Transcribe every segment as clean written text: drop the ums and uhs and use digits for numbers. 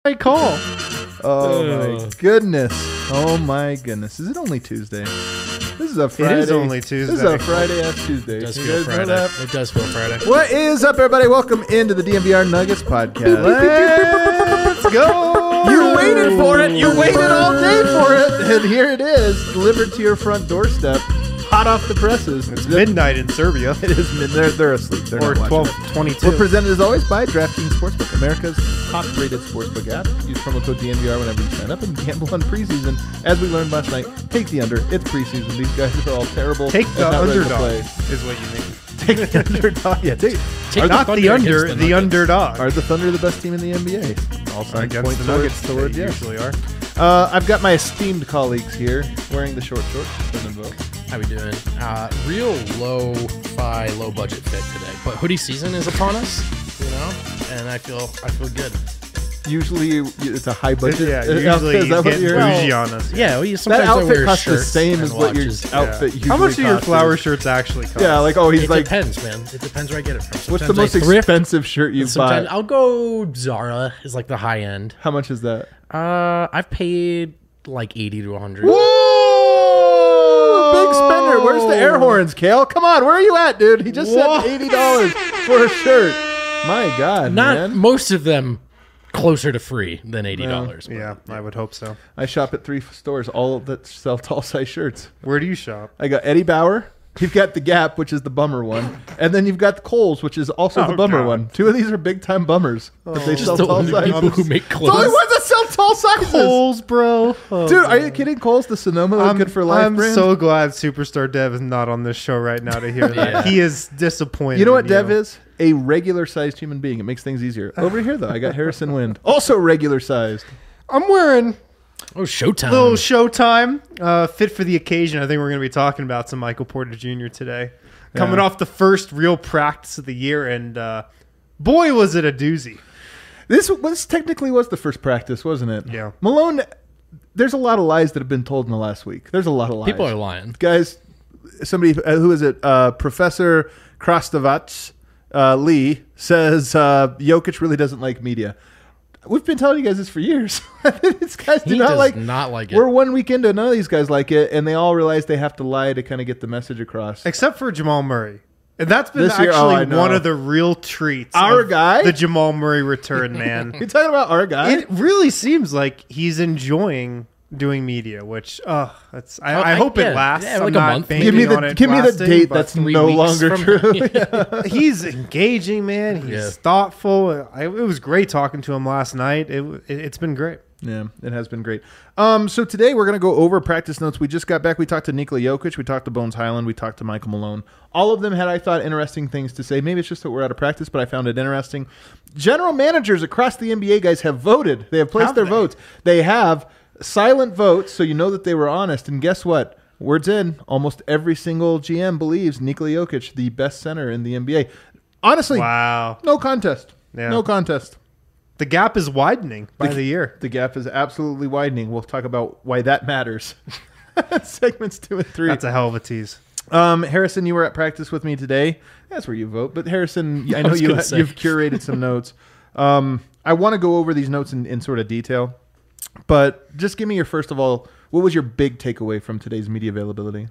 right call. Oh my goodness. Oh my goodness. Is it only Tuesday? This is a Friday. It is only Tuesday. This is a Friday-ass Tuesday. It does You feel guys know Friday. that? It does feel Friday. What is up, everybody? Welcome into the DMVR Nuggets podcast. Let's go. You waited for it. You waited all day for it. And here it is, delivered to your front doorstep, hot off the presses. It's midnight in Serbia. It is midnight. They're asleep. They're Or not watching it. 12:22. We're presented as always by DraftKings Sportsbook, America's top-rated sportsbook app. Use promo code DNVR whenever you sign up and gamble on preseason. As we learned last night, take the under. It's preseason. These guys are all terrible. Take and the not ready to underdog play. is what you mean. Take the underdog. Yeah, take. Take Not the against under, the Nuggets. underdog. Are the Thunder the best team in the NBA? All signs Against point the towards, Nuggets, toward they yes. usually are. I've got my esteemed colleagues here wearing the short shorts. Send them vote. How we doing? Real low-fi, low-budget fit today, but hoodie season is upon us, you know, and I feel good. Usually it's a high budget. Yeah, usually Is you that what get you're- bougie on us. Yeah, well, That sometimes I outfit wear costs the shirts same and as what your watches. outfit usually How much do your costs. flower shirts actually cost? Yeah, like, oh, he's It like, depends, man. It depends where I get it from. what's the Sometimes most I thrift, expensive shirt you've sometimes bought? I'll go Zara is like the high end. How much is that? I've paid like 80 to 100. Whoa! Big spender. Where's the air horns, Kale? Come on, where are you at, dude? He just Whoa. said $80 for a shirt. My God, Not man. most of them closer to free than $80. but- Yeah, I would hope so. I shop at 3 stores, all that sell tall size shirts. Where do you shop? I got Eddie Bauer. You've got the Gap, which is the bummer one, and then you've got the Kohl's, which is also the Oh, bummer God. one. Two of these are big time bummers, but they Just sell the tall only sizes. people who make The only clothes. ones that sell tall sizes. Kohl's, bro. Oh, Dude, are you kidding? Kohl's, the Sonoma Good for Life I'm brand. so glad Superstar Dev is not on this show right now to hear that. Yeah. He is disappointed. You know what in Dev is? A regular sized human being. It makes things easier. Over here, though, I got Harrison Wind, also regular sized. I'm wearing Oh, Showtime. little Showtime, fit for the occasion. I think we're going to be talking about some Michael Porter Jr. today. Coming off the first real practice of the year, and boy, was it a doozy. This technically was the first practice, wasn't it? Yeah. Malone, there's a lot of lies that have been told in the last week. There's a lot of lies. People are lying. Guys, somebody, who is it? Professor Krastovac Lee says Jokic really doesn't like media. We've been telling you guys this for years. These guys do He not does like. not like it. We're 1 week into it. None of these guys like it, and they all realize they have to lie to kind of get the message across. Except for Jamal Murray. And that's been This year, actually I know. one of the real treats. Our of guy? The Jamal Murray return, man. You talking about our guy? It really seems like he's enjoying doing media, which that's I hope it lasts. Yeah, I'm like a not month. banking give me on the it give me the lasting, date but that's 3 no weeks longer from true. now. he's engaging, man. He's Yeah. thoughtful. It was great talking to him last night. It's been great. Yeah, it has been great. So today we're going to go over practice notes. We just got back. We talked to Nikola Jokic. We talked to Bones Highland. We talked to Michael Malone. All of them had, I thought, interesting things to say. Maybe it's just that we're out of practice, but I found it interesting. General managers across the NBA, guys, have voted. They have placed Have their they? votes. They have silent votes, so you know that they were honest. And guess what? Words in. Almost every single GM believes Nikola Jokic, the best center in the NBA. Honestly, Wow. no contest. Yeah. No contest. The gap is widening by the year. The gap is absolutely widening. We'll talk about why that matters. Segments 2 and 3. That's a hell of a tease. Harrison, you were at practice with me today. That's where you vote. But Harrison, I know was gonna say. you've curated some notes. I want to go over these notes in sort of detail. But just give me your first of all, what was your big takeaway from today's media availability?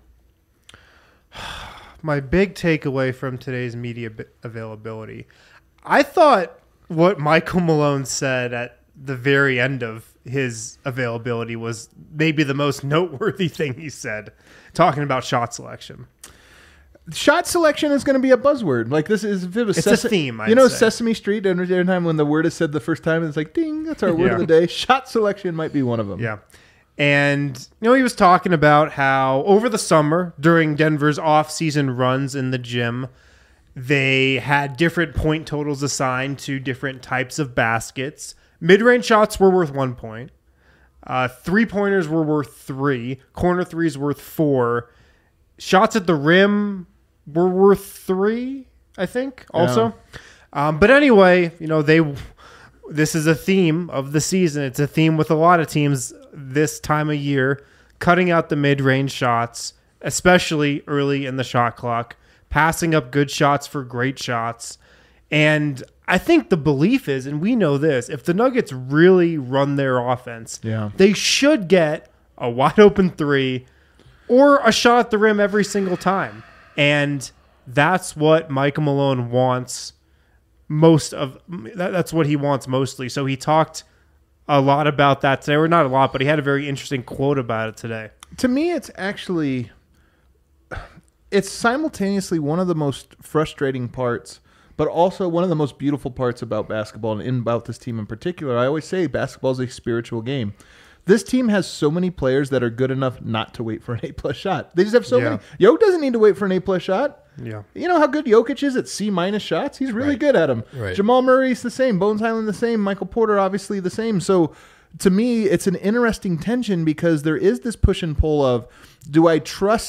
My big takeaway from today's media availability, I thought what Michael Malone said at the very end of his availability was maybe the most noteworthy thing he said, talking about shot selection. Shot selection is going to be a buzzword. Like this is if it was It's a theme, I'd you know, say. Sesame Street. Every time when the word is said the first time, it's like ding. That's our word Yeah. of the day. Shot selection might be one of them. Yeah. And, he was talking about how over the summer, during Denver's off-season runs in the gym, they had different point totals assigned to different types of baskets. Mid-range shots were worth 1 point. Three-pointers were worth 3. Corner threes worth 4. Shots at the rim were worth 3, I think, also. But anyway, this is a theme of the season. It's a theme with a lot of teams this time of year, cutting out the mid-range shots, especially early in the shot clock, passing up good shots for great shots. And I think the belief is, and we know this, if the Nuggets really run their offense, they should get a wide open three or a shot at the rim every single time. And that's what Michael Malone wants that's what he wants mostly. So he talked a lot about that today, or not a lot, but he had a very interesting quote about it today. To me, it's simultaneously one of the most frustrating parts, but also one of the most beautiful parts about basketball and about this team in particular. I always say basketball is a spiritual game. This team has so many players that are good enough not to wait for an A+ shot. They just have so many. Jokic doesn't need to wait for an A+ shot. Yeah. You know how good Jokic is at C- shots? He's really good at them. Right. Jamal Murray's the same. Bones Highland the same. Michael Porter obviously the same. So to me, it's an interesting tension because there is this push and pull of, do I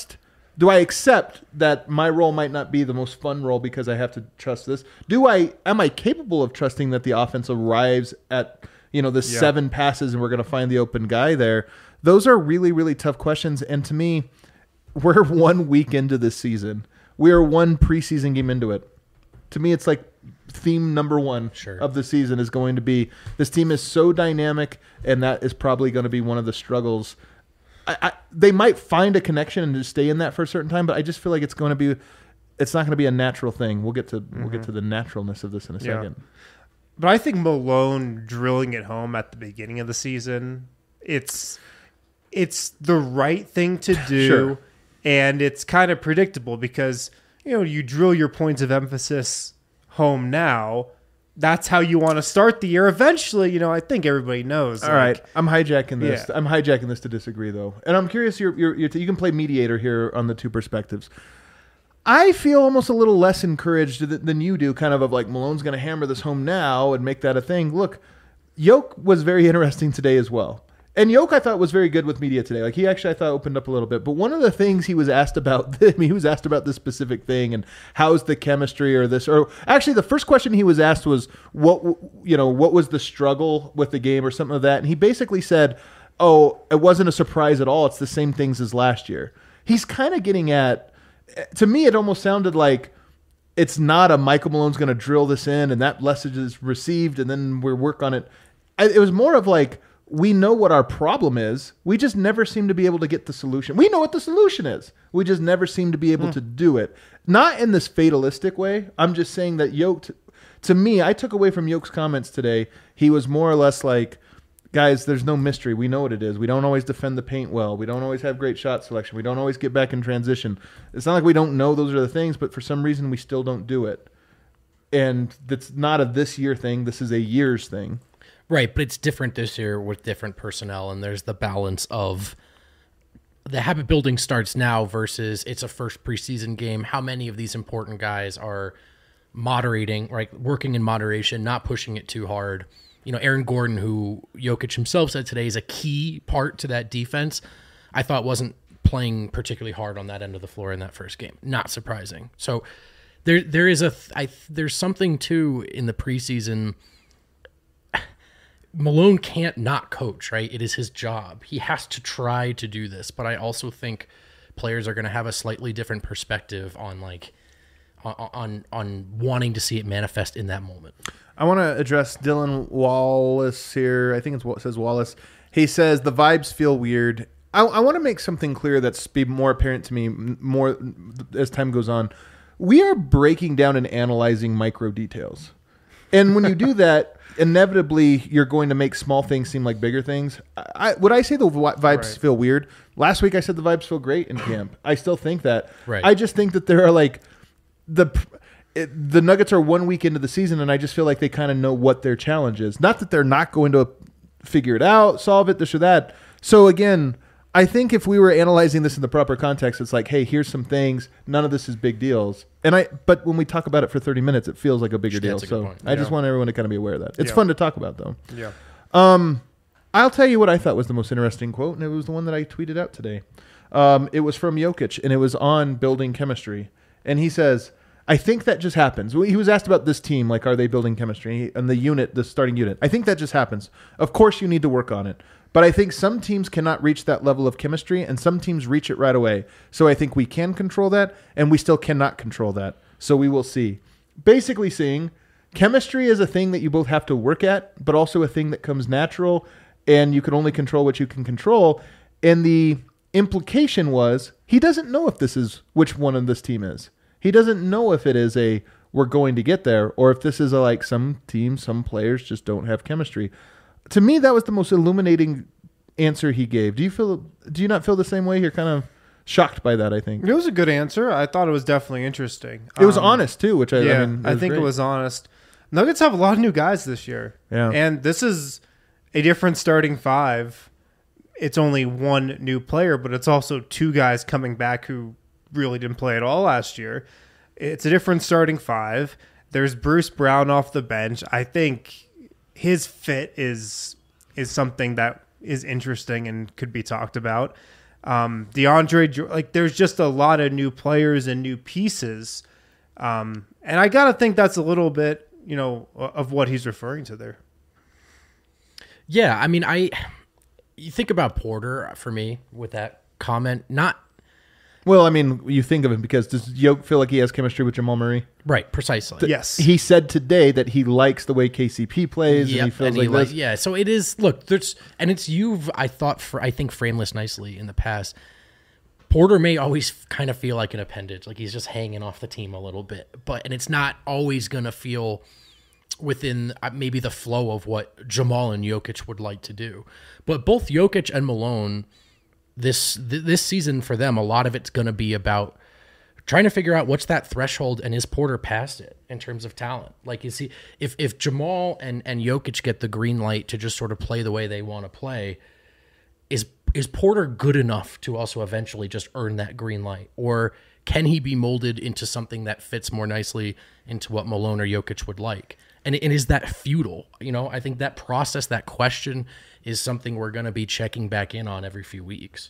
accept that my role might not be the most fun role because I have to trust this? Am I capable of trusting that the offense arrives at the 7 passes and we're going to find the open guy there? Those are really, really tough questions. And to me, we're 1 week into this season. We are 1 preseason game into it. To me, it's like theme number 1 of the season is going to be this team is so dynamic, and that is probably going to be one of the struggles. They might find a connection and just stay in that for a certain time, but I just feel like it's not going to be a natural thing. We'll get to the naturalness of this in a second. But I think Malone drilling it home at the beginning of the season, it's the right thing to do. Sure. And it's kind of predictable because, you drill your points of emphasis home now. That's how you want to start the year. Eventually, I think everybody knows. All right. I'm hijacking this. Yeah. I'm hijacking this to disagree, though. And I'm curious, you can play mediator here on the two perspectives. I feel almost a little less encouraged than you do, kind of like Malone's going to hammer this home now and make that a thing. Look, Yoke was very interesting today as well. And Yoke, I thought, was very good with media today. Like, he actually, I thought, opened up a little bit. But one of the things he was asked about, he was asked about this specific thing and how's the chemistry or this. Or actually, the first question he was asked was, what was the struggle with the game or something like that? And he basically said, it wasn't a surprise at all. It's the same things as last year. He's kind of getting at, to me, it almost sounded like it's not a Michael Malone's going to drill this in and that message is received and then we work on it. It was more of like, we know what our problem is. We just never seem to be able to get the solution. We know what the solution is. We just never seem to be able to do it. Not in this fatalistic way. I'm just saying that Yoke, to me, I took away from Yoke's comments today, he was more or less like, guys, there's no mystery. We know what it is. We don't always defend the paint well. We don't always have great shot selection. We don't always get back in transition. It's not like we don't know those are the things, but for some reason we still don't do it. And that's not a this year thing. This is a year's thing. Right, but it's different this year with different personnel, and there's the balance of the habit building starts now versus it's a first preseason game. How many of these important guys are moderating, right, working in moderation, not pushing it too hard? Aaron Gordon, who Jokic himself said today is a key part to that defense, I thought wasn't playing particularly hard on that end of the floor in that first game. Not surprising. So there's something too in the preseason. Malone can't not coach, right? It is his job. He has to try to do this, but I also think players are going to have a slightly different perspective on on wanting to see it manifest in that moment. I want to address Dylan Wallace here. I think it says Wallace. He says the vibes feel weird. I want to make something clear that's be more apparent to me more as time goes on. We are breaking down and analyzing micro details. And when you do that, inevitably you're going to make small things seem like bigger things. Would I say the vibes feel weird? Last week I said the vibes feel great in camp. I still think that. Right. I just think that there are like the Nuggets are 1 week into the season, and I just feel like they kind of know what their challenge is. Not that they're not going to figure it out, solve it, this or that. So again, I think if we were analyzing this in the proper context, it's like, hey, here's some things. None of this is big deals. But when we talk about it for 30 minutes, it feels like a bigger deal. So I just want everyone to kind of be aware of that. It's fun to talk about, though. Yeah. I'll tell you what I thought was the most interesting quote, and it was the one that I tweeted out today. It was from Jokic, and it was on building chemistry. And he says, I think that just happens. He was asked about this team, like, are they building chemistry? And the starting unit. I think that just happens. Of course you need to work on it. But I think some teams cannot reach that level of chemistry, and some teams reach it right away. So I think we can control that, and we still cannot control that. So we will see. Basically saying, chemistry is a thing that you both have to work at, but also a thing that comes natural, and you can only control what you can control. And the implication was he doesn't know if this is which one of this team is. He doesn't know if it is a we're going to get there, or if this is a like some teams, some players just don't have chemistry. To me, that was the most illuminating answer he gave. Do you not feel the same way? You're kind of shocked by that, I think. It was a good answer. I thought it was definitely interesting. It was honest too, which I think great. it was honest. Nuggets have a lot of new guys this year. Yeah. And this is a different starting five. It's only one new player, but it's also two guys coming back who really didn't play at all last year. It's a different starting five. There's Bruce Brown off the bench. I think his fit is something that is interesting and could be talked about. DeAndre, there's just a lot of new players and new pieces. And I got to think that's a little bit, of what he's referring to there. Yeah, I mean, you think about Porter for me with that comment, not... Well, I mean, you think of him because does Yoke feel like he has chemistry with Jamal Murray? Right, precisely. Yes. He said today that he likes the way KCP plays, and he feels like this. Yeah, so it is, look, I think framed this nicely in the past. Porter may always kind of feel like an appendage, like he's just hanging off the team a little bit, and it's not always going to feel within maybe the flow of what Jamal and Jokic would like to do. But both Jokic and Malone, this season for them, a lot of it's going to be about trying to figure out what's that threshold, and is Porter past it in terms of talent? Like, is he, if Jamal and Jokic get the green light to just sort of play the way they want to play, is Porter good enough to also eventually just earn that green light? Or can he be molded into something that fits more nicely into what Malone or Jokic would like? And is that futile? I think that process, that question, is something we're going to be checking back in on every few weeks.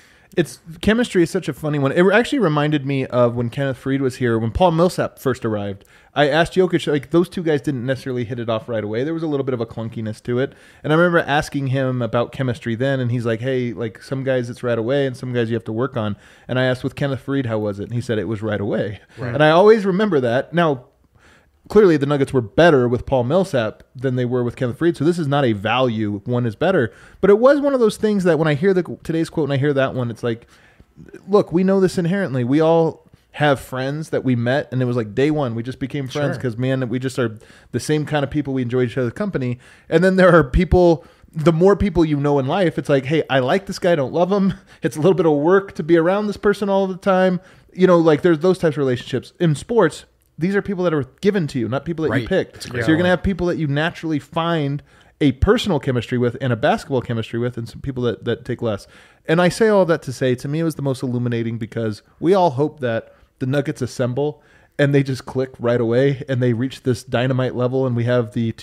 Chemistry is such a funny one. It actually reminded me of when Kenneth Faried was here, when Paul Millsap first arrived. I asked Jokic, like, those two guys didn't necessarily hit it off right away. There was a little bit of a clunkiness to it. And I remember asking him about chemistry then, and he's like, hey, like, some guys it's right away, and some guys you have to work on. And I asked with Kenneth Faried, how was it? And he said it was right away. Right. And I always remember that. Now, clearly the Nuggets were better with Paul Millsap than they were with Kenneth Faried, so this is not a value, one is better. But it was one of those things that when I hear today's quote and I hear that one, it's like, look, we know this inherently. We all have friends that we met, and it was like day one, we just became friends because, man, we just are the same kind of people. We enjoy each other's company. And then there are people, the more people you know in life, it's like, hey, I like this guy, I don't love him. It's a little bit of work to be around this person all the time. Like there's those types of relationships. In sports, these are people that are given to you, not people that you picked. So you're going to have people that you naturally find a personal chemistry with and a basketball chemistry with, and some people that take less. And I say all that to say, to me, it was the most illuminating because we all hope that the Nuggets assemble and they just click right away and they reach this dynamite level and we have the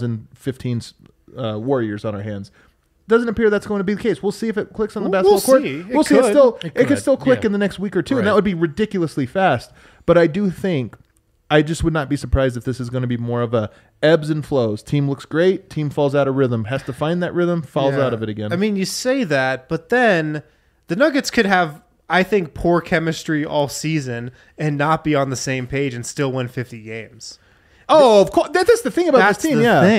2015 Warriors on our hands. Doesn't appear that's going to be the case. We'll see if it clicks on the basketball court. We'll see. It could still click in the next week or two, and that would be ridiculously fast. But I do think, I just would not be surprised if this is going to be more of a ebbs and flows. Team looks great, team falls out of rhythm, has to find that rhythm, falls out of it again. I mean, you say that, but then the Nuggets could have, I think, poor chemistry all season and not be on the same page and still win 50 games. Oh, of course. That's the thing about this team.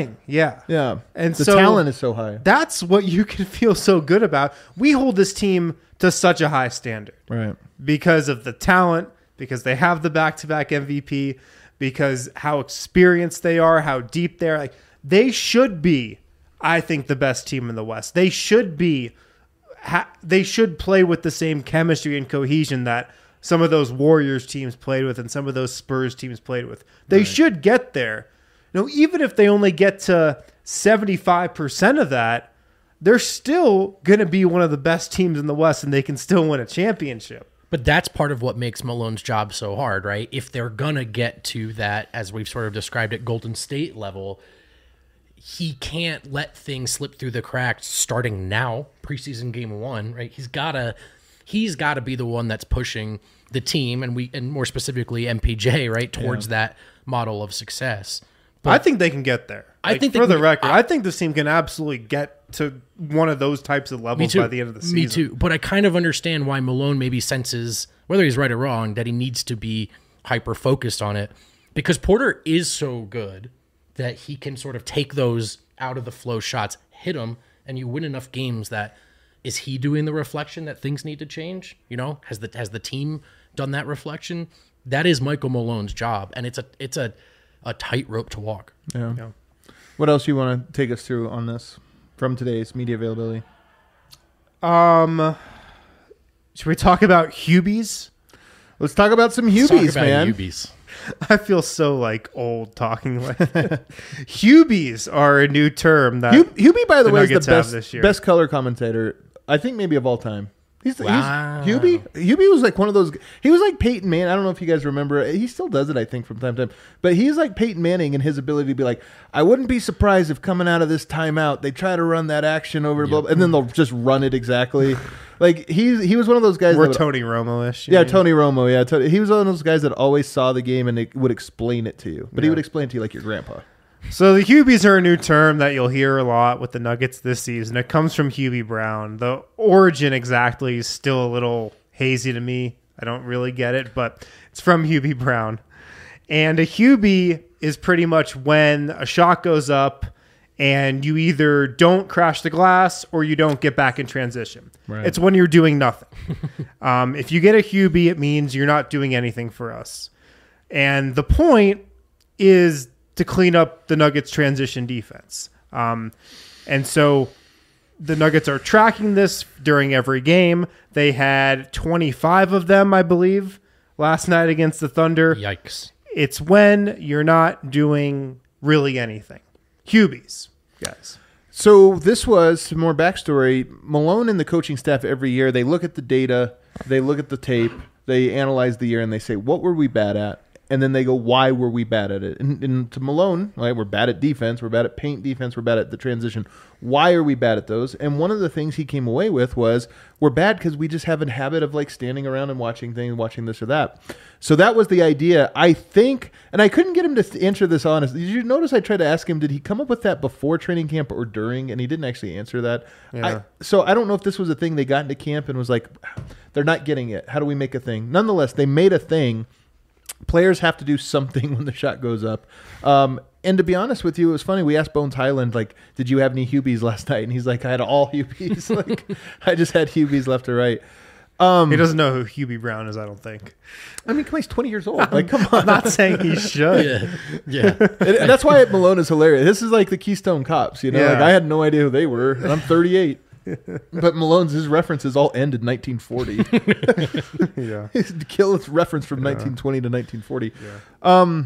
Yeah. And the talent is so high. That's what you can feel so good about. We hold this team to such a high standard. Right. Because of the talent, because they have the back-to-back MVP, because how experienced they are, how deep they are. Like, they should be, I think, the best team in the West. They should be. They should play with the same chemistry and cohesion that some of those Warriors teams played with and some of those Spurs teams played with. They should get there. Even if they only get to 75% of that, they're still going to be one of the best teams in the West, and they can still win a championship. But that's part of what makes Malone's job so hard, right? If they're going to get to that, as we've sort of described at Golden State level, he can't let things slip through the cracks starting now, preseason game one, right? He's got to be the one that's pushing the team and more specifically MPJ, right, towards that model of success. But I think they can get there. I think for the record, I think this team can absolutely get to one of those types of levels by the end of the season. Me too. But I kind of understand why Malone maybe senses, whether he's right or wrong, that he needs to be hyper focused on it. because Porter is so good that he can sort of take those out of the flow shots, hit them, and you win enough games that is he doing the reflection that things need to change? You know, has the team done that reflection? That is Michael Malone's job, and it's a tightrope to walk. Yeah. What else you want to take us through on this from today's media availability? Should we talk about Hubies? Let's talk about some Hubies, man. Hubies. I feel so like old talking like Hubies are a new term that Hubie, by the way, is Nuggets have this the year. best color commentator, I think, maybe of all time. Wow. Hubie. Hubie was like one of those. He was like Peyton Manning. I don't know if you guys remember. He still does it, I think, from time to time. But he's like Peyton Manning in his ability to be like, I wouldn't be surprised if coming out of this timeout they try to run that action over, blah, blah, and then they'll just run it exactly. Like he was one of those guys. We're that Tony Romo-ish. Yeah, Tony Romo. Yeah, he was one of those guys that always saw the game and would explain it to you. But he would explain it to you like your grandpa. So the Hubies are a new term that you'll hear a lot with the Nuggets this season. It comes from Hubie Brown. The origin exactly is still a little hazy to me. I don't really get it, but it's from Hubie Brown. And a Hubie is pretty much when a shot goes up and you either don't crash the glass or you don't get back in transition. Right. It's when you're doing nothing. If you get a Hubie, it means you're not doing anything for us. And the point is to clean up the Nuggets' transition defense. And so the Nuggets are tracking this during every game. They had 25 of them, I believe, last night against the Thunder. Yikes. It's when you're not doing really anything. Hubies, guys. So this was some more backstory. Malone and the coaching staff every year, they look at the data, they look at the tape, they analyze the year, and they say, what were we bad at? And then they go, why were we bad at it? And to Malone, right, we're bad at defense. We're bad at paint defense. We're bad at the transition. Why are we bad at those? And one of the things he came away with was we're bad because we just have a habit of like standing around and watching things, watching this or that. So that was the idea, I think. And I couldn't get him to answer this honestly. Did you notice I tried to ask him, did he come up with that before training camp or during? And he didn't actually answer that. Yeah. So I don't know if this was a thing they got into camp and was like, they're not getting it. How do we make a thing? Nonetheless, they made a thing. Players have to do something when the shot goes up. And to be honest with you, it was funny. We asked Bones Highland, like, did you have any Hubies last night? And he's like, I had all Hubies. Like, I just had Hubies left or right. He doesn't know who Hubie Brown is, I don't think. I mean, come on, he's 20 years old. Like, come on. I'm not saying he should. Yeah. And that's why Malone is hilarious. This is like the Keystone Cops, you know? Yeah. Like, I had no idea who they were, and I'm 38. But Malone's, his references all end in 1940. Yeah. His kill is reference from 1920 to 1940. Yeah.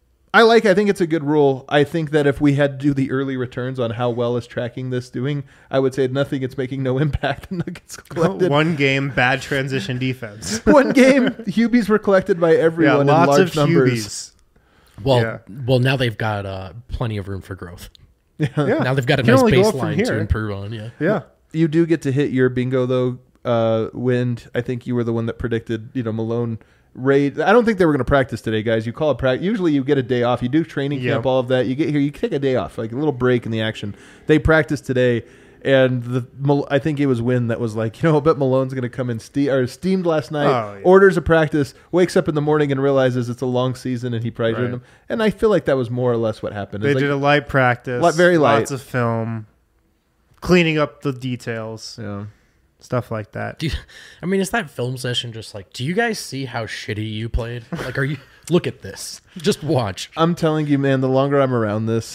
I think it's a good rule. I think that if we had to do the early returns on how well is tracking this doing, I would say nothing. It's making no impact. The Nuggets collected One game, bad transition defense. one game. Hubies were collected by everyone in lots large of numbers. Hubies. Well, now they've got plenty of room for growth. Yeah. Now they've got a You can nice only go up from baseline to here. improve on. Yeah. Yeah. You do get to hit your bingo though. Wind. I think you were the one that predicted. Malone. Raid. I don't think they were going to practice today, guys. You call it practice. Usually, you get a day off. You do training camp, all of that. You get here, you take a day off, like a little break in the action. They practiced today, and I think it was Wynn that was like, I bet Malone's going to come in steamed last night. Oh, yeah. Orders a practice, wakes up in the morning and realizes it's a long season, and he probably did them. And I feel like that was more or less what happened. They did a light practice. Very light. Lots of film. Cleaning up the details. Yeah. Stuff like that. Is that film session just like, do you guys see how shitty you played? Like, look at this. Just watch. I'm telling you, man, the longer I'm around this,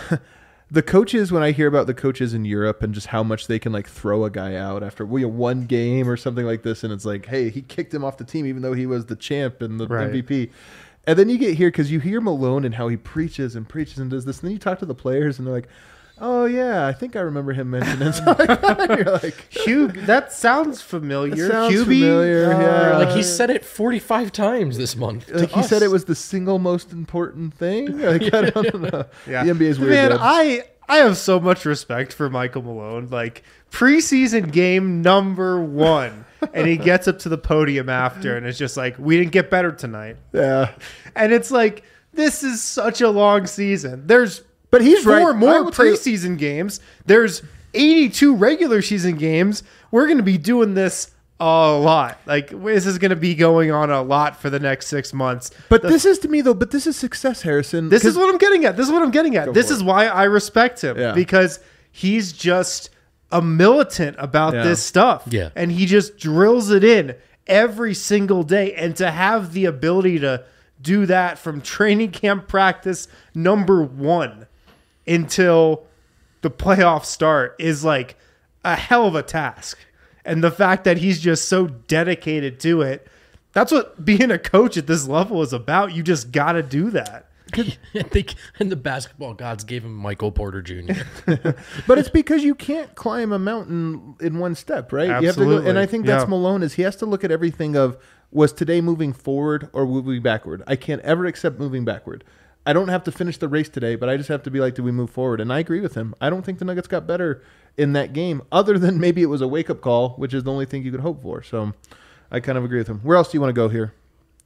the coaches, when I hear about the coaches in Europe and just how much they can like throw a guy out after one game or something like this, and it's like, hey, he kicked him off the team even though he was the champ and the MVP. And then you get here because you hear Malone and how he preaches and does this, and then you talk to the players and they're like, oh yeah, I think I remember him mentioning something. You're like, Hugh, that sounds familiar. It sounds Hubie? familiar, yeah. Like, he said it 45 times this month. like he said it was the single most important thing. Like, I don't know. Yeah. The NBA is weird. Man, Deb. I have so much respect for Michael Malone. Like, preseason game number 1. And he gets up to the podium after, and it's just like, we didn't get better tonight. Yeah. And it's like, this is such a long season. But he's right. Four I more will tell you- preseason games. There's 82 regular season games. We're going to be doing this a lot. Like, this is going to be going on a lot for the next 6 months. But this is to me though. But this is success, Harrison. This is what I'm getting at. This for is why I respect him, Yeah. because he's just a militant about Yeah. this stuff. Yeah. And he just drills it in every single day. And to have the ability to do that from training camp practice number 1 until the playoffs start is like a hell of a task. And the fact that he's just so dedicated to it, that's what being a coach at this level is about. You just got to do that. And the basketball gods gave him Michael Porter Jr. But it's because you can't climb a mountain in one step, right? You have to Absolutely. go, and I think that's Yeah. Malone is he has to look at everything of was today moving forward or moving backward. I can't ever accept moving backward. I don't have to finish the race today, but I just have to be like, do we move forward? And I agree with him. I don't think the Nuggets got better in that game, other than maybe it was a wake-up call, which is the only thing you could hope for. So I kind of agree with him. Where else do you want to go here?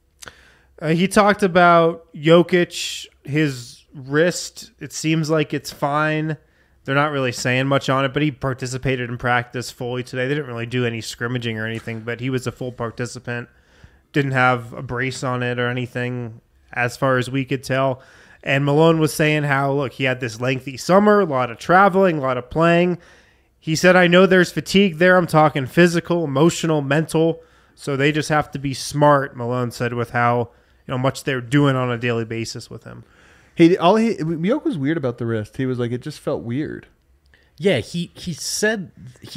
He talked about Jokic, his wrist. It seems like it's fine. They're not really saying much on it, but he participated in practice fully today. They didn't really do any scrimmaging or anything, but he was a full participant. Didn't have a brace on it or anything as far as we could tell. And Malone was saying how, look, he had this lengthy summer, a lot of traveling, a lot of playing. He said, I know there's fatigue there. I'm talking physical, emotional, mental. So they just have to be smart, Malone said, with how much they're doing on a daily basis with him. Jokic was weird about the wrist. He was like, it just felt weird. Yeah, he said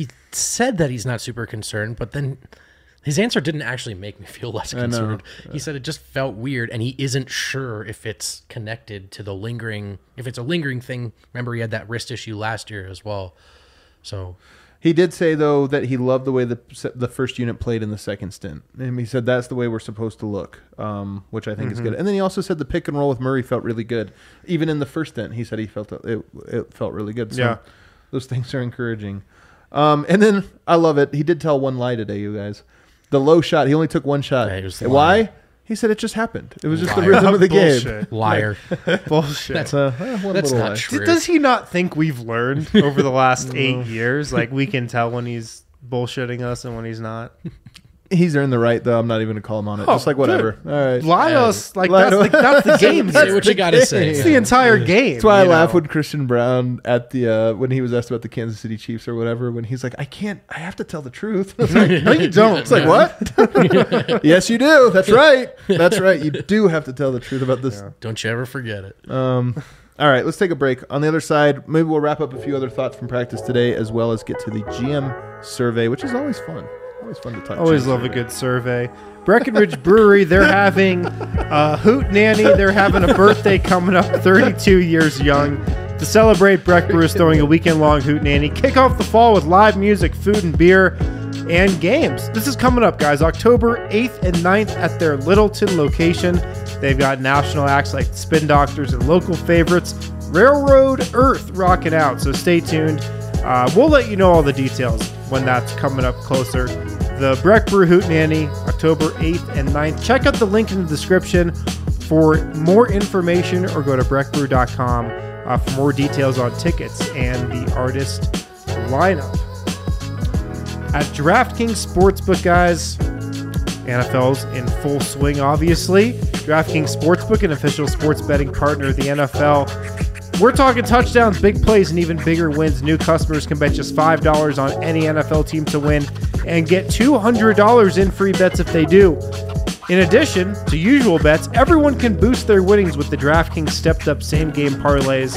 that he's not super concerned, but then his answer didn't actually make me feel less concerned. He said it just felt weird, and he isn't sure if it's connected to if it's a lingering thing. Remember, he had that wrist issue last year as well. So He did say, though, that he loved the way the first unit played in the second stint. And he said that's the way we're supposed to look, which I think is good. And then he also said the pick and roll with Murray felt really good. Even in the first stint, he said he felt it felt really good. So those things are encouraging. And then I love it. He did tell one lie today, you guys. The low shot, he only took one shot. Yeah, why? He said it just happened. It was just the Liar. rhythm of the game. Bullshit. liar. Bullshit. That's One That's little not lie. true. Does he not think we've learned over the last 8 years? Like, we can tell when he's bullshitting us and when he's not. He's earned the right, though. I'm not even going to call him on it. Oh, just like whatever. good. All right. Lie to us. Like, Lie that's to- the game. Say what you got to say. It's the entire game. That's why I you laugh know? when Christian Brown at the when he was asked about the Kansas City Chiefs or whatever, when he's like, I have to tell the truth. It's like, no, you don't. It's like, what? Yes, you do. That's right. That's right. You do have to tell the truth about this. Don't you ever forget it. All right, let's take a break. On the other side, maybe we'll wrap up a few other thoughts from practice today, as well as get to the GM survey, which is always fun. Always fun to talk. Always GM love survey. a good survey. Breckenridge Brewery, they're having a hoot nanny. They're having a birthday coming up, 32 years young. To celebrate, Breck Brew is throwing a weekend-long hoot nanny. Kick off the fall with live music, food and beer, and games. This is coming up, guys, October 8th and 9th at their Littleton location. They've got national acts like Spin Doctors and local favorites, Railroad Earth, rocking out. So stay tuned. We'll let you know all the details when that's coming up closer. The Breck Brew Hoot Nanny, October 8th and 9th. Check out the link in the description for more information, or go to breckbrew.com for more details on tickets and the artist lineup. At DraftKings Sportsbook, guys, NFL's in full swing, obviously. DraftKings Sportsbook, an official sports betting partner of the NFL. We're talking touchdowns, big plays, and even bigger wins. New customers can bet just $5 on any NFL team to win and get $200 in free bets if they do. In addition to usual bets, everyone can boost their winnings with the DraftKings stepped-up same-game parlays.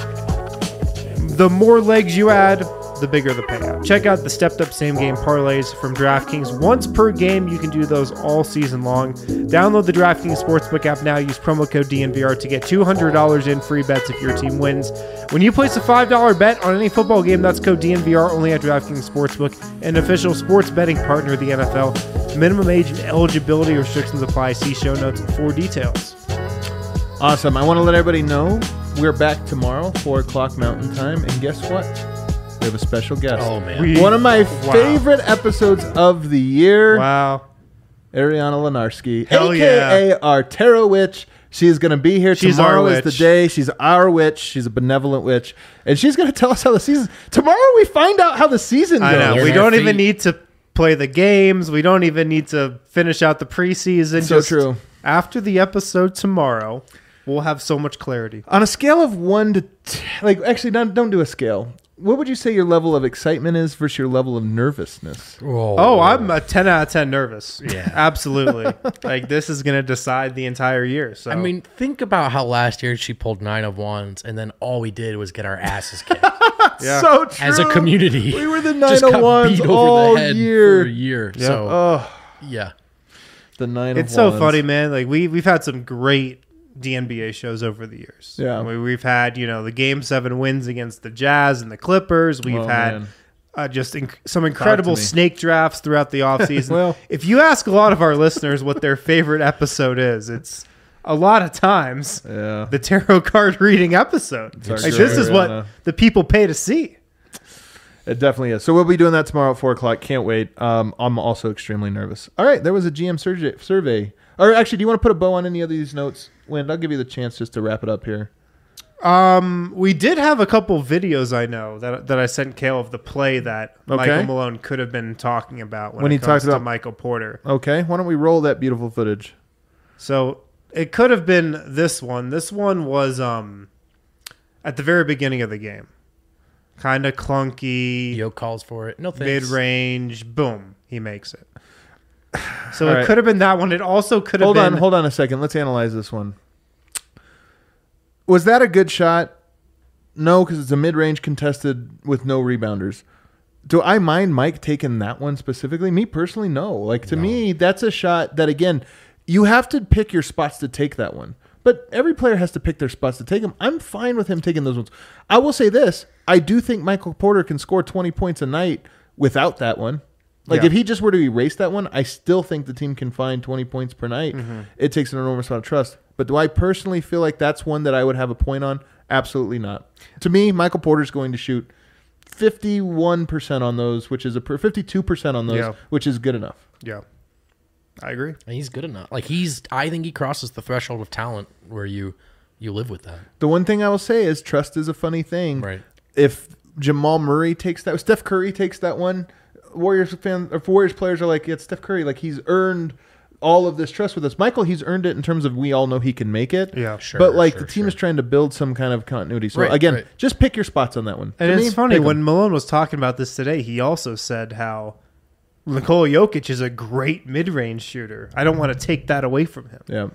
The more legs you add, the bigger the payout. Check out the stepped-up same-game parlays from DraftKings. Once per game, you can do those all season long. Download the DraftKings Sportsbook app now. Use promo code DNVR to get $200 in free bets if your team wins. When you place a $5 bet on any football game, that's code DNVR only at DraftKings Sportsbook, an official sports betting partner of the NFL. Minimum age and eligibility restrictions apply. See show notes for details. Awesome. I want to let everybody know we're back tomorrow, 4 o'clock Mountain Time. And guess what? We have a special guest. Oh, man. One of my favorite episodes of the year. Wow. Ariana Lenarski, Hell a.k.a. our tarot witch. She's going to be here. She's Tomorrow our is the witch. day. She's our witch. She's a benevolent witch. And she's going to tell us how the season... Tomorrow we find out how the season goes. I know. Learn We our don't feet. even need to play the games. We don't even need to finish out the preseason. So true. After the episode tomorrow, we'll have so much clarity. On a scale of 1 to 10, actually, don't do a scale. What would you say your level of excitement is versus your level of nervousness? Oh, I'm a 10 out of 10 nervous. Yeah. Absolutely. Like, this is going to decide the entire year. So I mean, think about how last year she pulled 9 of wands, and then all we did was get our asses kicked. Yeah. So true. As a community. We were the Just 9 got of wands beat over all the head year. for a year. Yeah. So, Oh, yeah. the 9 of it's so wands. funny, man. Like, we've had some great DNBA shows over the years. Yeah. We've had, the Game 7 wins against the Jazz and the Clippers. We've Oh, had man. just some incredible me. snake drafts throughout the offseason. Well- if you ask a lot of our listeners what their favorite episode is, it's a lot of times Yeah. the tarot card reading episode. our Like, joy, this is what yeah. the people pay to see. It definitely is. So we'll be doing that tomorrow at 4 o'clock. Can't wait. I'm also extremely nervous. All right. There was a GM survey. Or actually, do you want to put a bow on any of these notes? Wind, I'll give you the chance just to wrap it up here. We did have a couple videos I know that I sent Kale of the play that Okay. Michael Malone could have been talking about When it he comes talked about- to Michael Porter. Okay. Why don't we roll that beautiful footage? So it could have been this one. This one was at the very beginning of the game. Kind of clunky, Yo calls for it. No thanks. mid-range, boom, he makes it. So All it right. could have been that one. It also could have been... Hold on a second. Let's analyze this one. Was that a good shot? No, because it's a mid-range contested with no rebounders. Do I mind Mike taking that one specifically? Me personally, no. Like, to me, that's a shot that, again, you have to pick your spots to take that one. But every player has to pick their spots to take them. I'm fine with him taking those ones. I will say this. I do think Michael Porter can score 20 points a night without that one. Like, Yeah. if he just were to erase that one, I still think the team can find 20 points per night. It takes an enormous amount of trust. But do I personally feel like that's one that I would have a point on? Absolutely not. To me, Michael Porter's going to shoot 51% on those, which is 52% on those, Yeah. which is good enough. Yeah, I agree. And he's good enough. Like I think he crosses the threshold of talent where you live with that. The one thing I will say is trust is a funny thing. Right. If Jamal Murray takes that, Steph Curry takes that one, Warriors players are like, yeah, it's Steph Curry. Like, he's earned all of this trust with us. Michael, he's earned it in terms of we all know he can make it. Yeah. Sure. But like sure, the team sure. is trying to build some kind of continuity. So Right, again, right. just pick your spots on that one. And To it's me, funny, pick 'em. when Malone was talking about this today, he also said how Nikola Jokic is a great mid-range shooter. I don't want to take that away from him. Yeah.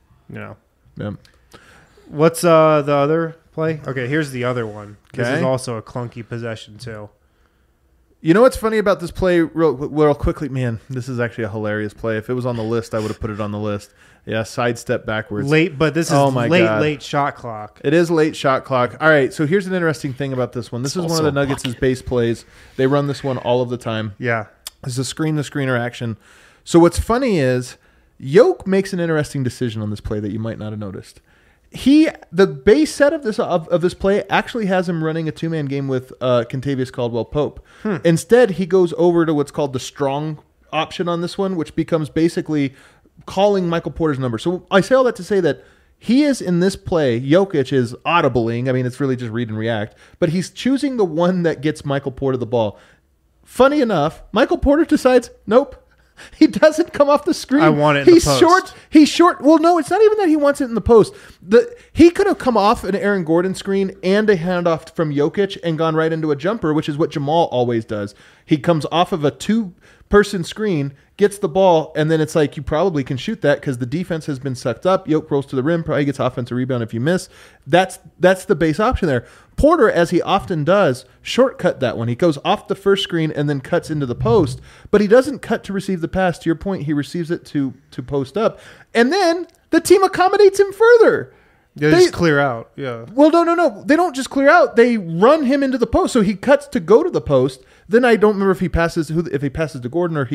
Yeah. What's the other play? Okay, here's the other one. This is Okay. also a clunky possession too. You know what's funny about this play real quickly? Man, this is actually a hilarious play. If it was on the list, I would have put it on the list. Yeah, sidestep backwards. Late, but this is Oh my God. late shot clock. It is late shot clock. All right, so here's an interesting thing about this one. This is one of also the a Nuggets' base plays. They run this one all of the time. Yeah. This is a screen-to-screener action. So what's funny is Yoke makes an interesting decision on this play that you might not have noticed. The base set of this play actually has him running a two-man game with Kentavious Caldwell-Pope. Instead, he goes over to what's called the strong option on this one, which becomes basically calling Michael Porter's number. So I say all that to say that he is in this play, Jokic is audibling. I mean, it's really just read and react. But he's choosing the one that gets Michael Porter the ball. Funny enough, Michael Porter decides, nope. He doesn't come off the screen. I want it in the He's post. short. He's short. Well, no, it's not even that he wants it in the post. He could have come off an Aaron Gordon screen and a handoff from Jokic and gone right into a jumper, which is what Jamal always does. He comes off of a two-person screen, gets the ball, and then it's like you probably can shoot that because the defense has been sucked up. Yoke rolls to the rim, probably gets offensive rebound if you miss. That's the base option there. Porter, as he often does, shortcut that one. He goes off the first screen and then cuts into the post, but he doesn't cut to receive the pass. To your point, he receives it to post up. And then the team accommodates him further. They just clear out. Yeah. Well, no. They don't just clear out. They run him into the post. So he cuts to go to the post. Then I don't remember if he passes to Gordon or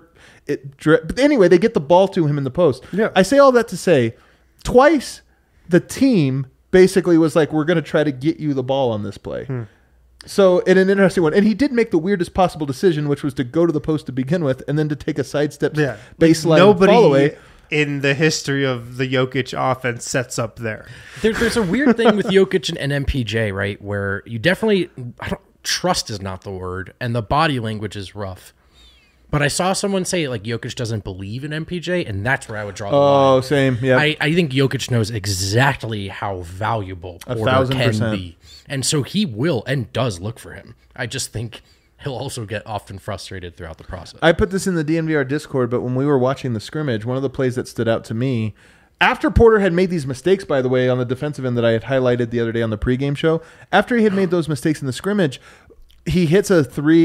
but anyway, they get the ball to him in the post. Yeah. I say all that to say twice the team basically was like, we're going to try to get you the ball on this play. So in an interesting one. And he did make the weirdest possible decision, which was to go to the post to begin with and then to take a sidestep baseline Nobody fall away. in the history of the Jokic offense sets up there. There's a weird thing with Jokic and MPJ, right? Where you definitely trust is not the word, and the body language is rough. But I saw someone say like Jokic doesn't believe in MPJ, and that's where I would draw the line. Oh, same. Yeah. I think Jokic knows exactly how valuable Porter 1,000%. can be. And so he will and does look for him. I just think he'll also get often frustrated throughout the process. I put this in the DNVR Discord, but when we were watching the scrimmage, one of the plays that stood out to me, after Porter had made these mistakes, by the way, on the defensive end that I had highlighted the other day on the pregame show, after he had made those mistakes in the scrimmage, he hits 2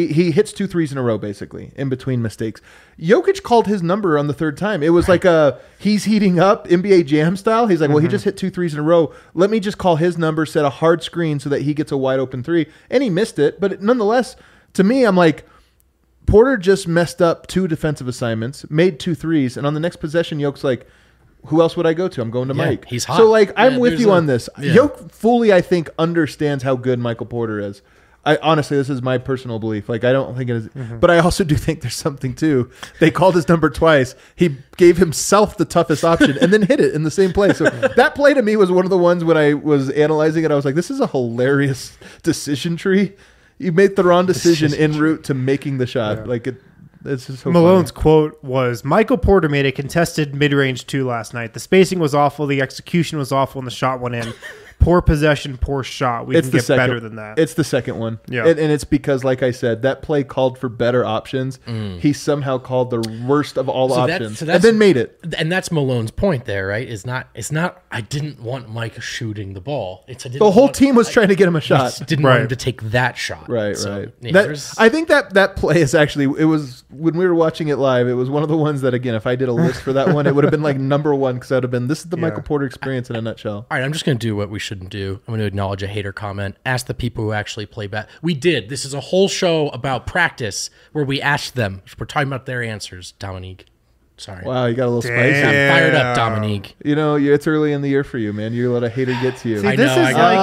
threes in a row, basically, in between mistakes. Jokic called his number on the third time. It was like he's heating up NBA Jam style. He's like, well, he just hit 2 threes in a row. Let me just call his number, set a hard screen so that he gets a wide open 3. And he missed it. But nonetheless, to me, I'm like, Porter just messed up 2 defensive assignments, made 2 threes. And on the next possession, Jokic's like, who else would I go to? I'm going to Mike. He's hot. So, like, I'm with you there's on this. Jokic fully, I think, understands how good Michael Porter is. Honestly, this is my personal belief. Like, I don't think it is. But I also do think there's something, too. They called his number twice. He gave himself the toughest option and then hit it in the same play. So that play to me was one of the ones when I was analyzing it, I was like, this is a hilarious decision tree. You made the wrong decision en route to making the shot. Yeah. Like, it's just so Malone's funny. quote was, Michael Porter made a contested mid-range 2 last night. The spacing was awful. The execution was awful, and the shot went in. Poor possession, poor shot. We can get better than that. It's the second one. Yeah. And it's because, like I said, that play called for better options. He somehow called the worst of all options and then made it. And that's Malone's point there, right? It's not I didn't want Mike shooting the ball. The whole team was trying to get him a shot. Didn't want him to take that shot. Right. Yeah, I think that play is actually, it was, when we were watching it live, it was one of the ones that, again, if I did a list for that one, it would have been like number 1 because I would have been, this is the Michael Porter experience in a nutshell. All right, I'm just going to do what we shouldn't do. I'm going to acknowledge a hater comment. Ask the people who actually play We did. This is a whole show about practice where we asked them. We're talking about their answers, Dominique. Sorry. Wow, you got a little spicy. I'm fired up, Dominique. You know, it's early in the year for you, man. You let a hater get to you. See, I this know, is I like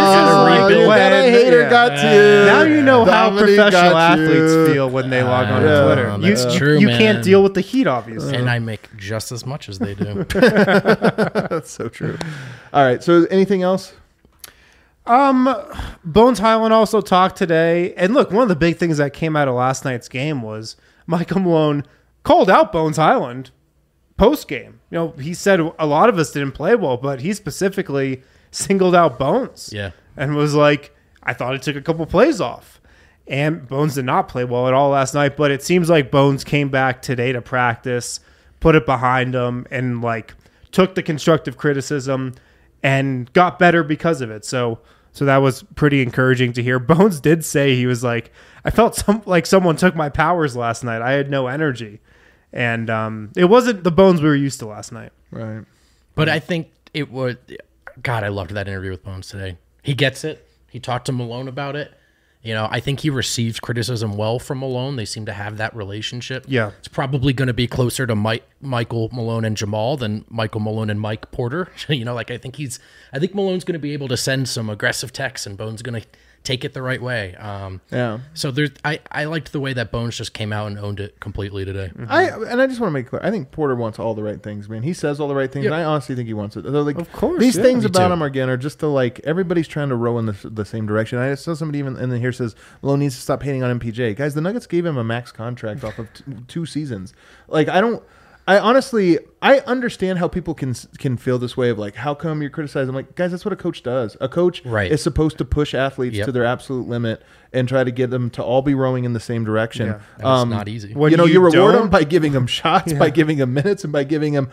gotta when a hater got to you. Now you know how Dominique professional got you. athletes feel when they log on to Twitter. That's true, you man. can't deal with the heat, obviously. And I make just as much as they do. That's so true. All right, so anything else? Bones Highland also talked today. And look, one of the big things that came out of last night's game was Michael Malone called out Bones Highland post-game. You know, he said a lot of us didn't play well, but he specifically singled out Bones. Yeah. And was like, I thought he took a couple plays off. And Bones did not play well at all last night, but it seems like Bones came back today to practice, put it behind him, and like took the constructive criticism and got better because of it. So that was pretty encouraging to hear. Bones did say, he was like, I felt like someone took my powers last night. I had no energy. And it wasn't the Bones we were used to last night. Right. But I think it would. God, I loved that interview with Bones today. He gets it. He talked to Malone about it. You know, I think he receives criticism well from Malone. They seem to have that relationship. Yeah. It's probably going to be closer to Michael Malone and Jamal than Michael Malone and Mike Porter. You know, like I think Malone's going to be able to send some aggressive texts and Bones going to take it the right way. Yeah. So I liked the way that Bones just came out and owned it completely today. I just want to make clear. I think Porter wants all the right things, man. He says all the right things, and I honestly think he wants it. So, like, of course, these things me about too. him again are just to like everybody's trying to row in the same direction. I saw somebody even in here says Malone needs to stop hating on MPJ. Guys, the Nuggets gave him a max contract off of 2 seasons. Like, I honestly understand how people can feel this way of like, how come you're criticizing? I'm like, guys, that's what a coach does. A coach is supposed to push athletes to their absolute limit and try to get them to all be rowing in the same direction. Yeah. It's not easy. You reward them by giving them shots, by giving them minutes, and by giving them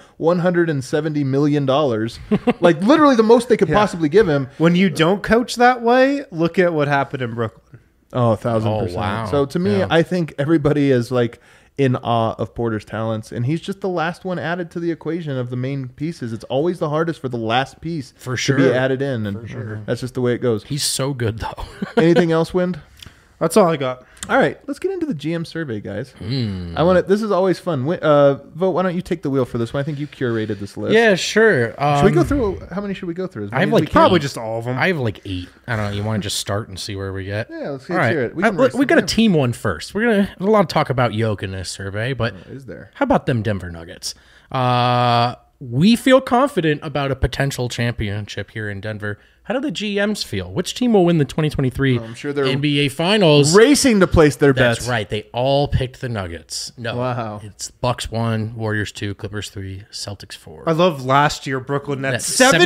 $170 million. Like literally the most they could possibly give him. When you don't coach that way, look at what happened in Brooklyn. Oh, 1,000%. Wow. So to me, I think everybody is like in awe of Porter's talents, and he's just the last one added to the equation of the main pieces. It's always the hardest for the last piece to be added in, and that's just the way it goes. He's so good, though. Anything else, Wind? That's all I got. All right, let's get into the GM survey, guys. I want to. This is always fun. Vote. Why don't you take the wheel for this one? I think you curated this list. Yeah, sure. Should we go through? How many should we go through? I have like probably just all of them. I have like 8. I don't know. You want to just start and see where we get? Yeah, let's all right. hear it. We got a team one first. There's a lot of talk about Yoke in this survey, but is there? How about them Denver Nuggets? We feel confident about a potential championship here in Denver. How do the GMs feel? Which team will win the 2023 I'm sure they're NBA Finals? racing to place their bets. That's right. They all picked the Nuggets. No, Wow. it's Bucks 1, Warriors 2, Clippers 3, Celtics 4. I love last year Brooklyn Nets. That's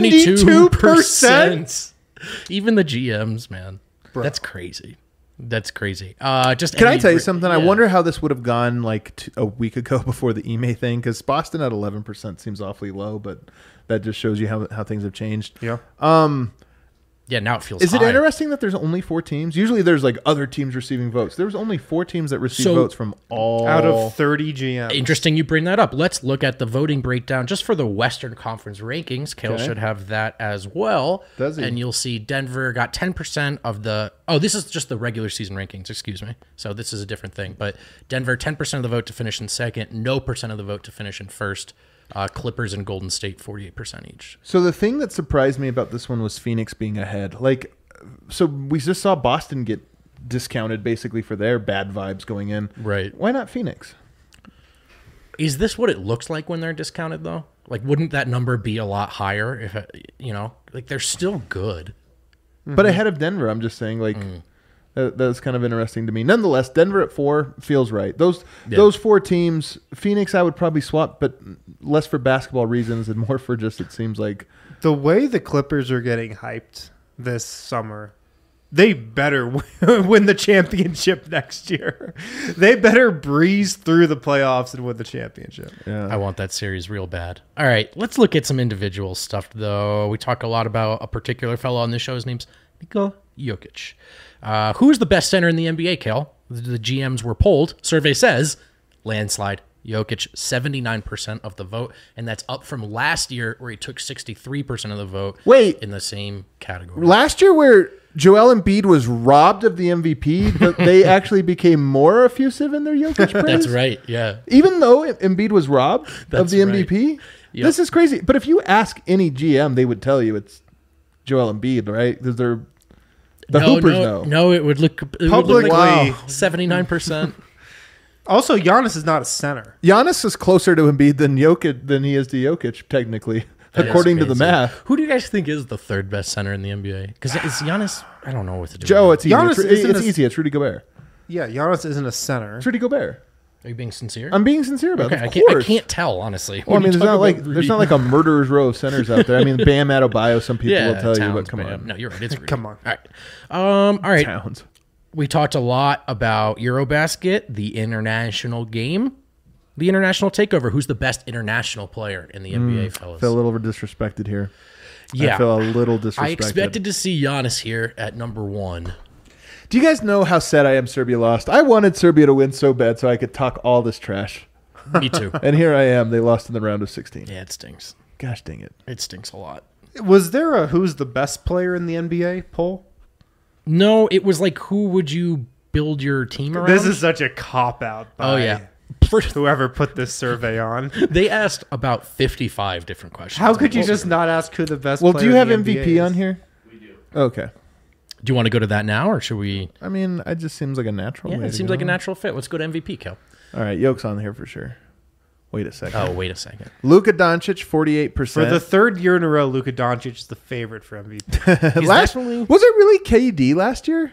72%. Even the GMs, man. That's crazy. That's crazy. Can I tell you something? I wonder how this would have gone like a week ago before the Ime thing, because Boston at 11% seems awfully low, but that just shows you how things have changed. Yeah. Yeah, now it feels Is it high. interesting that there's only 4 teams? Usually there's like other teams receiving votes. There was only 4 teams that received votes from all Out of 30 GMs. Interesting you bring that up. Let's look at the voting breakdown just for the Western Conference rankings. Kale Okay. should have that as well. Does he? And you'll see Denver got 10% of the... Oh, this is just the regular season rankings, excuse me. So this is a different thing. But Denver, 10% of the vote to finish in second, no percent of the vote to finish in first. Clippers and Golden State, 48% each. So the thing that surprised me about this one was Phoenix being ahead. Like, so we just saw Boston get discounted basically for their bad vibes going in. Right. Why not Phoenix? Is this what it looks like when they're discounted, though? Like, wouldn't that number be a lot higher if, like, they're still good? But ahead of Denver, I'm just saying, like, that's kind of interesting to me. Nonetheless, Denver at 4 feels right. Those 4 teams, Phoenix, I would probably swap, but less for basketball reasons and more for just, it seems like. The way the Clippers are getting hyped this summer, they better win the championship next year. They better breeze through the playoffs and win the championship. Yeah. I want that series real bad. All right, let's look at some individual stuff, though. We talk a lot about a particular fellow on this show. His name's Nikola Jokic. Who is the best center in the NBA, Kel? The GMs were polled. Survey says landslide. Jokic, 79% of the vote, and that's up from last year where he took 63% of the vote. Wait. In the same category. Last year where Joel Embiid was robbed of the MVP, but they actually became more effusive in their Jokic praise? That's right, yeah. Even though Embiid was robbed of That's the right. MVP? Yep. This is crazy. But if you ask any GM, they would tell you it's Joel Embiid, right? Because they're the Hoopers know. No, it would look Publicly. Wow. 79%. Also, Giannis is not a center. Giannis is closer to Embiid than he is to Jokic, technically, according to the Amazing. math. Who do you guys think is the third best center in the NBA? Because it's Giannis. I don't know what to do. Joe, with it's easy. Giannis isn't It's a- easy. It's Rudy Gobert. Yeah, Giannis isn't a center. It's Rudy Gobert. it. Are you being sincere? I'm being sincere about okay, it. I Of can't. I course. can't tell honestly. Well, I When mean, you there's talk not like about there's Rudy. not like a murderer's row of centers out there. I mean, Bam Adebayo. Some people yeah, will tell you, Towns, but come Bam. on, No, you're right. It's Rudy. Come on. All right. All right. Towns. We talked a lot about Eurobasket, the international game, the international takeover. Who's the best international player in the NBA, fellas? Feel a little disrespected here. Yeah. I feel a little disrespected. I expected to see Giannis here at number 1. Do you guys know how sad I am Serbia lost? I wanted Serbia to win so bad so I could talk all this trash. Me too. And here I am. They lost in the round of 16. Yeah, it stinks. Gosh dang it. It stinks a lot. Was there a who's the best player in the NBA poll? No, it was like, who would you build your team around? This is such a cop-out by Oh, yeah. whoever put this survey on. They asked about 55 different questions. How could you just not ask who the best Well, player do you have in the MVP NBA is? on here? We do. Okay. Do you want to go to that now, or should we? I mean, it just seems like a natural Yeah, way it to seems go. like a natural fit. Let's go to MVP, Kel. All right, Yoke's on here for sure. Wait a second. Oh, wait a second. Luka Doncic, 48%. For the third year in a row, Luka Doncic is the favorite for MVP. He's last, definitely was it really KD last year?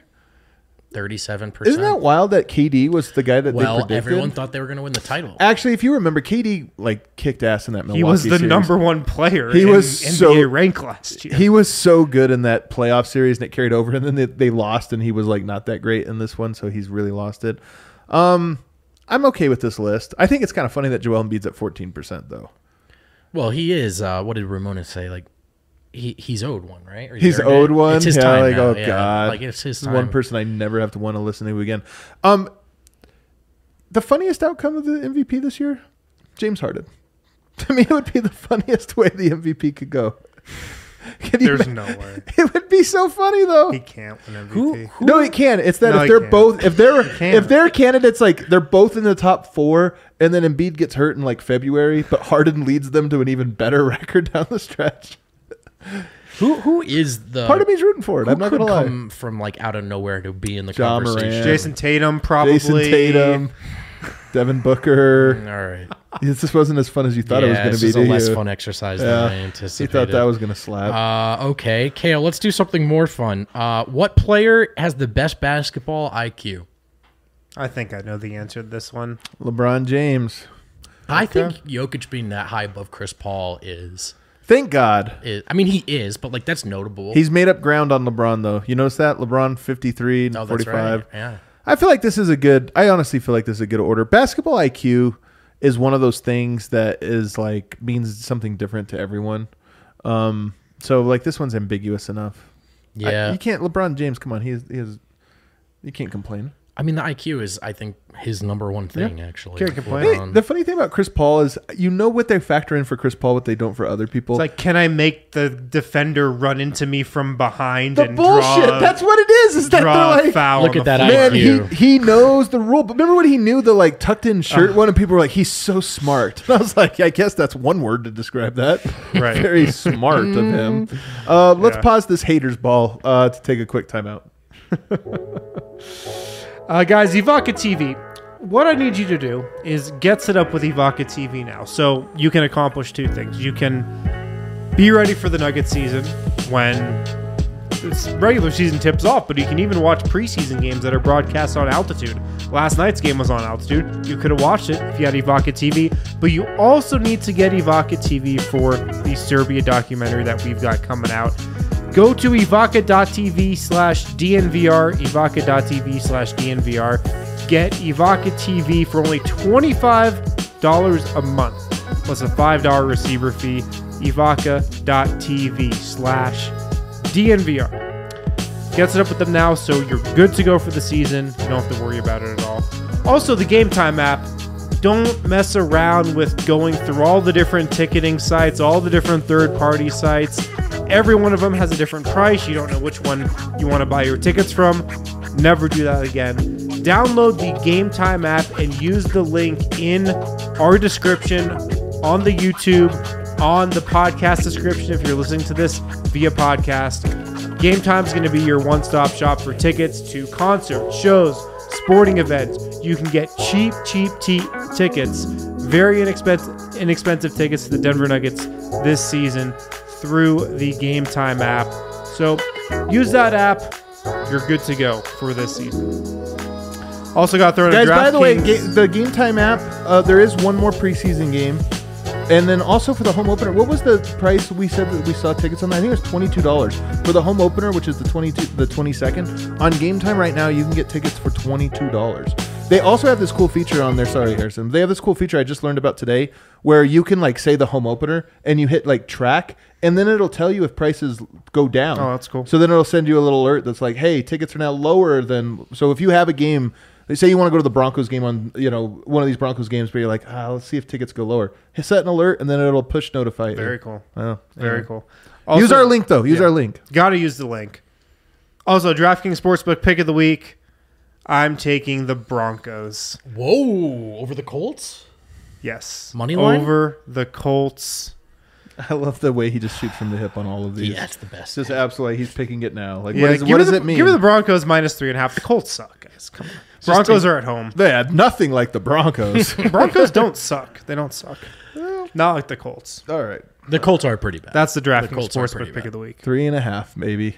37%. Isn't that wild that KD was the guy that they well, predicted? everyone thought they were going to win the title. Actually, if you remember, KD like kicked ass in that Milwaukee He was the series. number one player He in was NBA so- rank last year. He was so good in that playoff series, and it carried over. And then they lost, and he was like not that great in this one, so he's really lost it. I'm okay with this list. I think it's kind of funny that Joel Embiid's at 14%, though. Well, he is. What did Ramona say? Like, he's owed one, right? Or He's earned owed it? one. It's his yeah, time like now. oh Yeah, god, like it's his This is time. one person I never have to want to listen to again. The funniest outcome of the MVP this year, James Harden. To me, it would be the funniest way the MVP could go. Can you There's ima- no way. It would be so funny though. He can't win MVP. No, he can. It's that No, if he they're can't. both can't. if they're candidates like they're both in the top 4 and then Embiid gets hurt in like February, but Harden leads them to an even better record down the stretch. Who is the Part of me's rooting for it. who I'm not could gonna lie. come from like out of nowhere to be in the Ja conversation? Morant. Jason Tatum probably. Jason Tatum. Devin Booker. All right. This wasn't as fun as you thought it was going to be. It's a less fun exercise than I He anticipated. thought that was going to slap. Okay, Kale, let's do something more fun. What player has the best basketball IQ? I think I know the answer to this one. LeBron James. I think Jokic being that high above Chris Paul is Thank God. I mean, he is, but like that's notable. He's made up ground on LeBron, though. You notice that? LeBron 53 and oh, that's 45. right. Yeah. I feel like this is a good, I honestly feel like this is a good order. Basketball IQ is one of those things that is like, means something different to everyone. So like this one's ambiguous enough. Yeah. You can't, LeBron James, come on. He has, you can't complain. I mean, the IQ is, I think, his number one thing, actually. Can't complain. Hey, the funny thing about Chris Paul is, you know what they factor in for Chris Paul, what they don't for other people. It's like, can I make the defender run into me from behind the and bullshit. draw, That's what it is that draw they're a like, foul? Look on at the that floor? man, IQ. he knows the rule. But remember when he knew the like tucked in shirt one, and people were like, he's so smart. And I was like, I guess that's one word to describe that. Right. Very smart of him. Let's Yeah. pause this haters ball to take a quick timeout. Guys, Evoca TV. What I need you to do is get set up with Evoca TV now. So you can accomplish two things. You can be ready for the Nugget season when it's regular season tips off, but you can even watch preseason games that are broadcast on Altitude. Last night's game was on Altitude. You could have watched it if you had Evoca TV, but you also need to get Evoca TV for the Serbia documentary that we've got coming out. Go to evoca.tv/DNVR, evoca.tv/DNVR. Get Evoca TV for only $25 a month, plus a $5 receiver fee. Evoca.tv/DNVR. Get set up with them now so you're good to go for the season. You don't have to worry about it at all. Also, the Game Time app. Don't mess around with going through all the different ticketing sites, all the different third-party sites. Every one of them has a different price. You don't know which one you want to buy your tickets from. Never do that again. Download the Game Time app and use the link in our description on the YouTube, on the podcast description if you're listening to this via podcast. Game Time is going to be your one-stop shop for tickets to concerts, shows, sporting events. You can get cheap tickets, very inexpensive tickets to the Denver Nuggets this season through the Game Time app. So use that app. You're good to go for this season. Also got thrown Guys, a by the way, DraftKings. the Game Time app, there is one more preseason game. And then also for the home opener, what was the price we said that we saw tickets on that? I think it was $22 for the home opener, which is the 22nd. On Game Time right now, you can get tickets for $22. They also have this cool feature on there. Sorry, Harrison. They have this cool feature I just learned about today, where you can like say the home opener and you hit like track, and then it'll tell you if prices go down. Oh, that's cool. So then it'll send you a little alert that's like, hey, tickets are now lower than. So if you have a game. They say you want to go to the Broncos game on, one of these Broncos games where you're like, let's see if tickets go lower. Hit set an alert, and then it'll push notify you. Very cool. Oh, Very anyway. cool. Use Also- our link, though. Use our link. Got to use the link. Also, DraftKings Sportsbook pick of the week. I'm taking the Broncos. Whoa, over the Colts? Yes. Money line? Over the Colts. I love the way he just shoots from the hip on all of these. Yeah, that's the best. Just absolutely, he's picking it now. Like, Yeah, what does it mean? Give me the Broncos minus 3.5. The Colts suck, guys. Come on. Broncos are at home. They had nothing like the Broncos. Broncos don't suck. They don't suck. Not like the Colts. All right. The Colts are pretty bad. That's the DraftKings Colts are pretty Sportsbook pick bad. of the week. 3.5, maybe.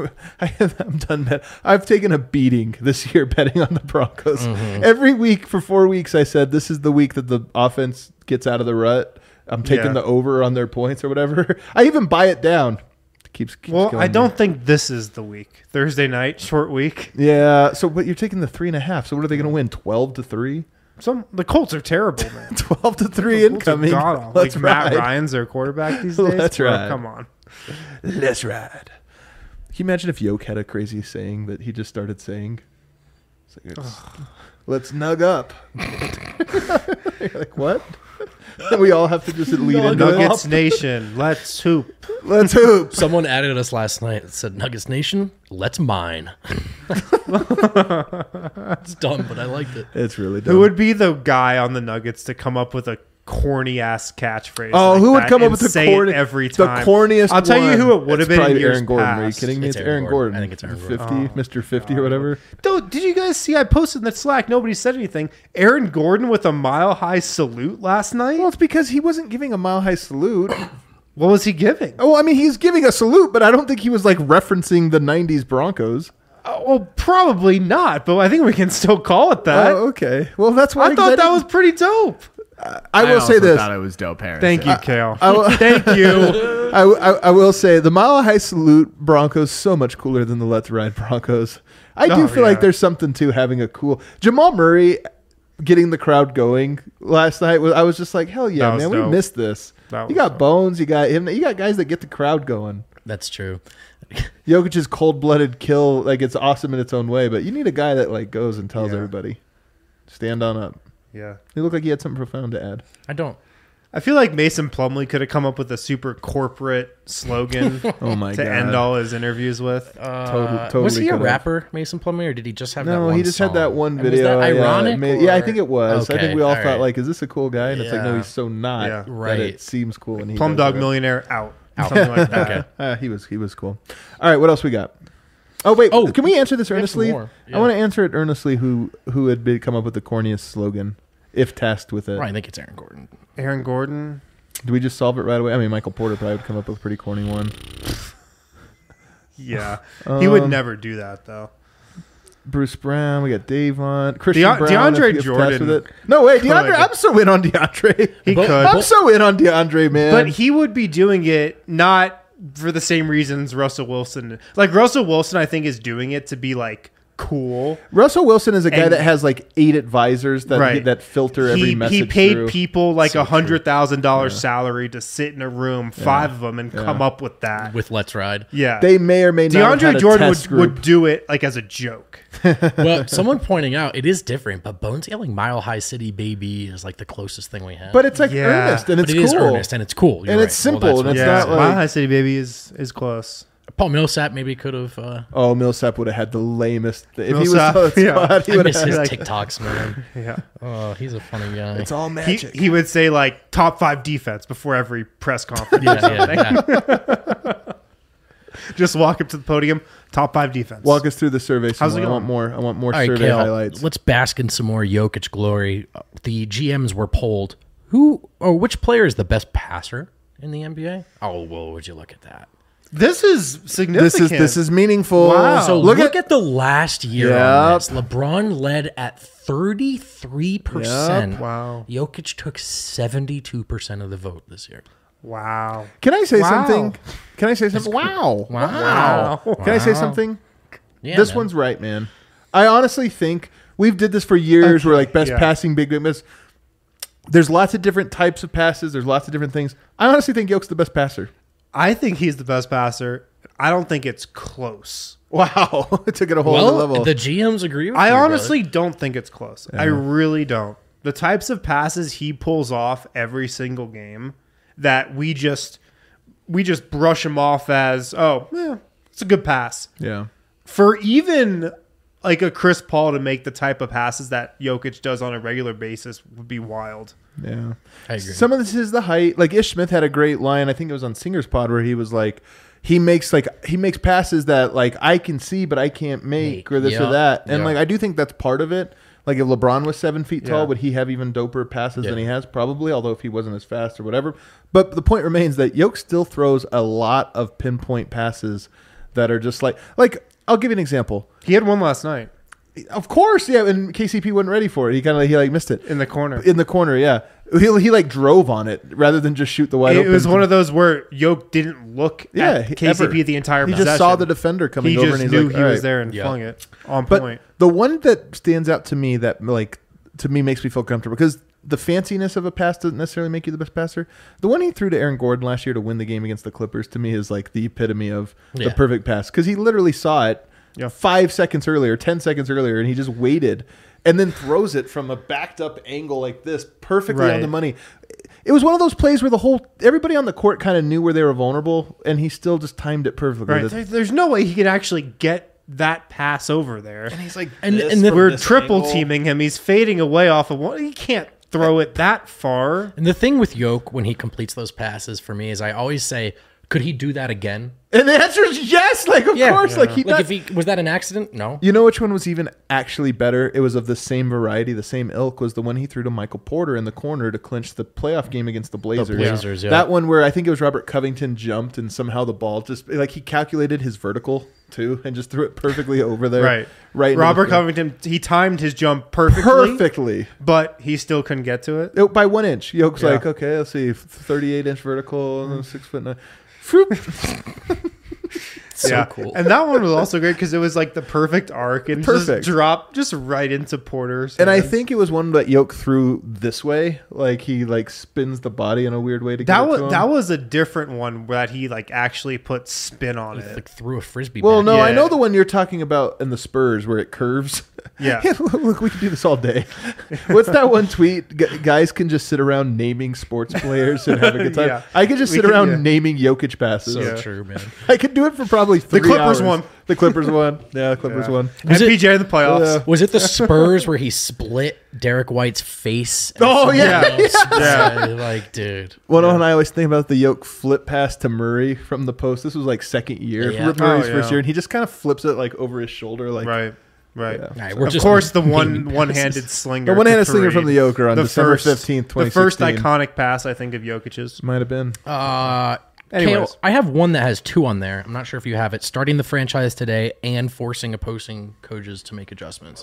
I'm done bet. I've taken a beating this year betting on the Broncos. Every week for 4 weeks, I said this is the week that the offense gets out of the rut. I'm taking Yeah. the over on their points or whatever. I even buy it down. Keeps Well, going I don't down. think this is the week. Thursday night, short week. Yeah. So, but you're taking the 3.5. So, what are they going to win? 12-3. The Colts are terrible, man. 12-3 Colts are incoming. god-awful. Let's Like Matt ride. Ryan's their quarterback these days. Let's Bro, ride. Come on. Let's ride. Can you imagine if Yoke had a crazy saying that he just started saying? It's like, let's nug up. You're like, what? And we all have to just lead into it. Nuggets Nation, let's hoop. Let's hoop. Someone added us last night that said, Nuggets Nation, let's mine. It's dumb, but I liked it. It's really dumb. Who would be the guy on the Nuggets to come up with a corny ass catchpatch. Oh, like who would that come up and with the say it corny every The time? corniest. I'll tell you one. who it would have It's been in probably years Aaron Gordon. Are you past. kidding me? It's It's Aaron Aaron Gordon. Gordon. I think it's Aaron 50, Gordon. Mr. 50 or whatever. Did you guys see? I posted in the Slack. Nobody said anything. Aaron Gordon with a Mile High salute last night. Well, it's because he wasn't giving a Mile High salute. What was he giving? Oh, I mean, he's giving a salute, but I don't think he was like referencing the '90s Broncos. Well, probably not, but I think we can still call it that. Oh, okay. Well, that's why I thought that was pretty dope. I will say also this. thought it was dope, Harris. Thank you, Kale. will- Thank you. I will say the Mile High Salute Broncos so much cooler than the Let's Ride Broncos. I do Oh, feel like yeah. there's something to having a cool Jamal Murray getting the crowd going last night. I was just like, hell yeah, That was man, dope. we missed this. That You was got dope. Bones, you got him, you got guys that get the crowd going. That's true. Jokic's cold-blooded kill, like it's awesome in its own way, but you need a guy that like goes and tells Yeah. everybody, stand on up. Yeah. He looked like he had something profound to add. I don't. I feel like Mason Plumlee could have come up with a super corporate slogan Oh my to god! end all his interviews with. Totally Was he a could've. rapper, Mason Plumlee, or did he just have that No, one he just song? had that one And was video. that ironic? Yeah, I or- think it was. I Okay, think we all all thought right. like, is this a cool guy? And it's like, no, Yeah. he's so not. Yeah. That Right. it seems cool. And he Plum does Dog it. Millionaire out. Something like that. Okay. He was cool. All right, what else we got? Oh wait, Oh, can we answer this we have some earnestly? more. I Yeah. want to answer it earnestly. Who had come up with the corniest slogan, if tasked with it? Right, I think it's Aaron Gordon. Aaron Gordon. Do we just solve it right away? I mean, Michael Porter probably would come up with a pretty corny one. Yeah. He would Um, never do that, though. Bruce Brown. We got Davon. Christian Brown. DeAndre if tasked Jordan with it. No way, DeAndre. could. I'm so in on DeAndre. He But- could. I'm so in on DeAndre, man. But he would be doing it not for the same reasons Russell Wilson. Like, Russell Wilson, I think, is doing it to be, like, cool. Russell Wilson is a guy And- that has like 8 advisors that Right. that filter every message. He paid through. people like So $100,000 salary to sit in a room, 5 of them, and come up with that. With Let's Ride. Yeah. They may or may not. have had DeAndre a Jordan test would group. do it like as a joke. Well, someone pointing out it is different, but Bones yelling "Mile High City Baby" is like the closest thing we have. But it's like Yeah. earnest and But it's it is cool. earnest and it's cool. You're And right. it's simple that's and what it's it yeah, not is. like- Mile High City Baby is close. Paul Millsap maybe could have. Oh, Millsap would have had the lamest. If he Millsap, was so yeah. squad, he I would miss have. his Like, TikToks, man. Yeah. Oh, he's a funny guy. it's all He, magic. he would say like top 5 defense before every press conference. yeah. Just walk up to the podium, top 5 defense. Walk us through the survey. How's Some it more. I going? want more. I want more All right, survey Kale, highlights. let's bask in some more Jokic glory. The GMs were polled. Which player is the best passer in the NBA? Oh, well, would you look at that? This is significant. This is meaningful. Wow. So look, look at at the last year Yep. on this. LeBron led at 33%. Yep. Wow. Jokic took 72% of the vote this year. Wow. Can I say Wow. something? Can I say something? Wow. Wow. Can I say something? Yeah, This man. one's right, man. I honestly think we've did this for years. Okay, We're like best yeah. passing, big miss. There's lots of different types of passes. There's lots of different things. I honestly think Yoke's the best passer. I think he's the best passer. I don't think it's close. Wow. It took it a whole Well, other level. the GMs agree with I you, honestly don't think it's close. I really don't. The types of passes he pulls off every single game that we just brush him off as, it's a good pass. yeah. For even like a Chris Paul to make the type of passes that Jokic does on a regular basis would be wild. Yeah. I agree. Some of this is the height. Like Ish Smith had a great line. I think it was on Singer's Pod where he was like, he makes passes that like I can see but I can't make or this or Yeah. that. And Yeah. like I do think that's part of it. Like if LeBron was 7 feet tall, Yeah. would he have even doper passes than Yeah. he has? Probably, although if he wasn't as fast or whatever. But the point remains that Yoke still throws a lot of pinpoint passes that are just like I'll give you an example. He had one last night Of course, yeah, and KCP wasn't ready for it. He kind of he missed it in the corner. in the corner. Yeah, he like drove on it rather than just shoot the wide It open. was one of those where Yoke didn't look at KCP ever. the entire He possession. just saw the defender coming He over just and he's knew like, he "All was right." there and Yeah. flung it on But point. the one that stands out to me that like to me makes me feel comfortable because the fanciness of a pass doesn't necessarily make you the best passer. The one he threw to Aaron Gordon last year to win the game against the Clippers to me is like the epitome of the Yeah. perfect pass because he literally saw it 5 seconds earlier, 10 seconds earlier, and he just waited and then throws it from a backed up angle like this perfectly on Right. the money. It was one of those plays where everybody on the court kind of knew where they were vulnerable and he still just timed it perfectly. Right. There's no way he could actually get that pass over there. And he's like, And this the- from We're this triple angle. teaming him. He's fading away off of one. He can't throw it that far. And the thing with Yoke when he completes those passes for me is I always say, could he do that again? And the answer is yes. Like, of course. Like, if he was that an accident? No. You know which one was even actually better? It was of the same variety, the same ilk, was the one he threw to Michael Porter in the corner to clinch the playoff game against the Blazers. Yeah. That one where I think it was Robert Covington jumped and somehow the ball just, like, he calculated his vertical too and just threw it perfectly over there. Right. Robert Covington, he timed his jump perfectly. But he still couldn't get to it. By 1 inch. Yoke's like, okay, let's see, 38-inch vertical, and 6'9". So cool. And that one was also great because it was like the perfect arc and just dropped just right into Porter's and hands. I think it was one that Yoke threw this way, like he like spins the body in a weird way to get it to him. That was a different one that he like actually put spin on it. Like threw a frisbee. Well, back. no, I know the one you're talking about in the Spurs where it curves. Yeah. Look, we could do this all day. What's that one tweet? Guys can just sit around naming sports players and have a good time. Yeah. I could just sit around naming Jokic passes. So true, man. I could do it for probably 3 The Clippers hours. won. The Clippers won. Yeah, the Clippers won. MPJ in the playoffs. Was it the Spurs where he split Derek White's face? Oh, yeah. Like, dude. One I always think about the Yoke flip pass to Murray from the post. This was like second year. Yeah. Murray's first year. And he just kind of flips it like over his shoulder. Like, Right. All right, Of course, the one-handed slinger. The one-handed to slinger from the Joker on the December first- 15th, 2016. The first iconic pass, I think, of Jokic's. Might have been. Anyways. Kale, I have one that has 2 on there. I'm not sure if you have it. Starting the franchise today and forcing opposing coaches to make adjustments.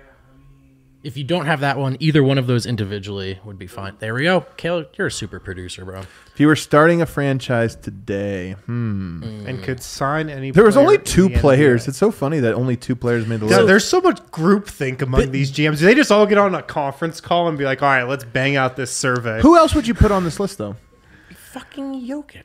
If you don't have that one, either one of those individually would be fine. There we go. Kale, you're a super producer, bro. If you were starting a franchise today, And could sign any there was player only in 2 the players. NBA. It's so funny that only 2 players made the Yeah, list. there's so much groupthink among these GMs. They just all get on a conference call and be like, all right, let's bang out this survey. Who else would you put on this list, though? Fucking Jokic.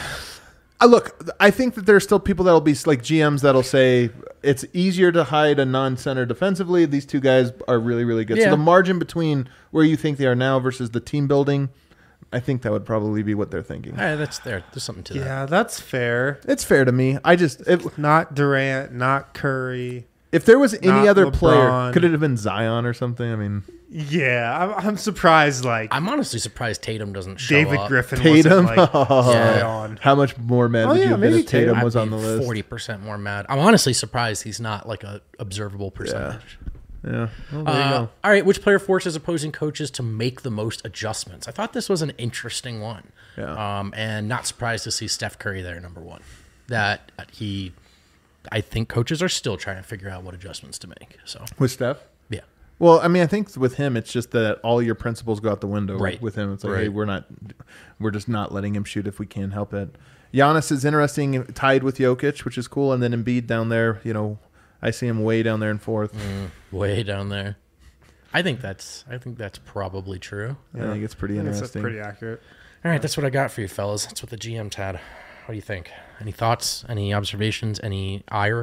Look, I think that there's still people that'll be like GMs that'll say it's easier to hide a non-center defensively. These 2 guys are really, really good. Yeah. So the margin between where you think they are now versus the team building, I think that would probably be what they're thinking. All right, that's there. There's something to that. Yeah, that's fair. It's fair to me. Not Durant, not Curry. If there was any Not other player, LeBron. could it have been Zion or something? I mean, Yeah, I'm surprised. Like I'm honestly surprised Tatum doesn't show David up. Griffin Tatum. wasn't like Yeah. on. How much more mad Oh, would you yeah, have been maybe if Tatum Tatum. was on the I'd list? 40% more mad. I'm honestly surprised he's not like a observable percentage. Yeah. Well, there you go. All right, which player forces opposing coaches to make the most adjustments? I thought this was an interesting one. Yeah. And not surprised to see Steph Curry there, number 1. I think coaches are still trying to figure out what adjustments to make. So With Steph? yeah. Well, I mean, I think with him, it's just that all your principles go out the window. Right. With him, it's like, Right. hey, we're just not letting him shoot if we can help it. Giannis is interesting, tied with Jokic, which is cool, and then Embiid down there. You know, I see him way down there in 4th. Way down there. I think that's probably true. I think it's pretty That's interesting. pretty accurate. All right, that's what I got for you, fellas. That's what the GM's had. What do you think? Any thoughts? Any observations? Any ire?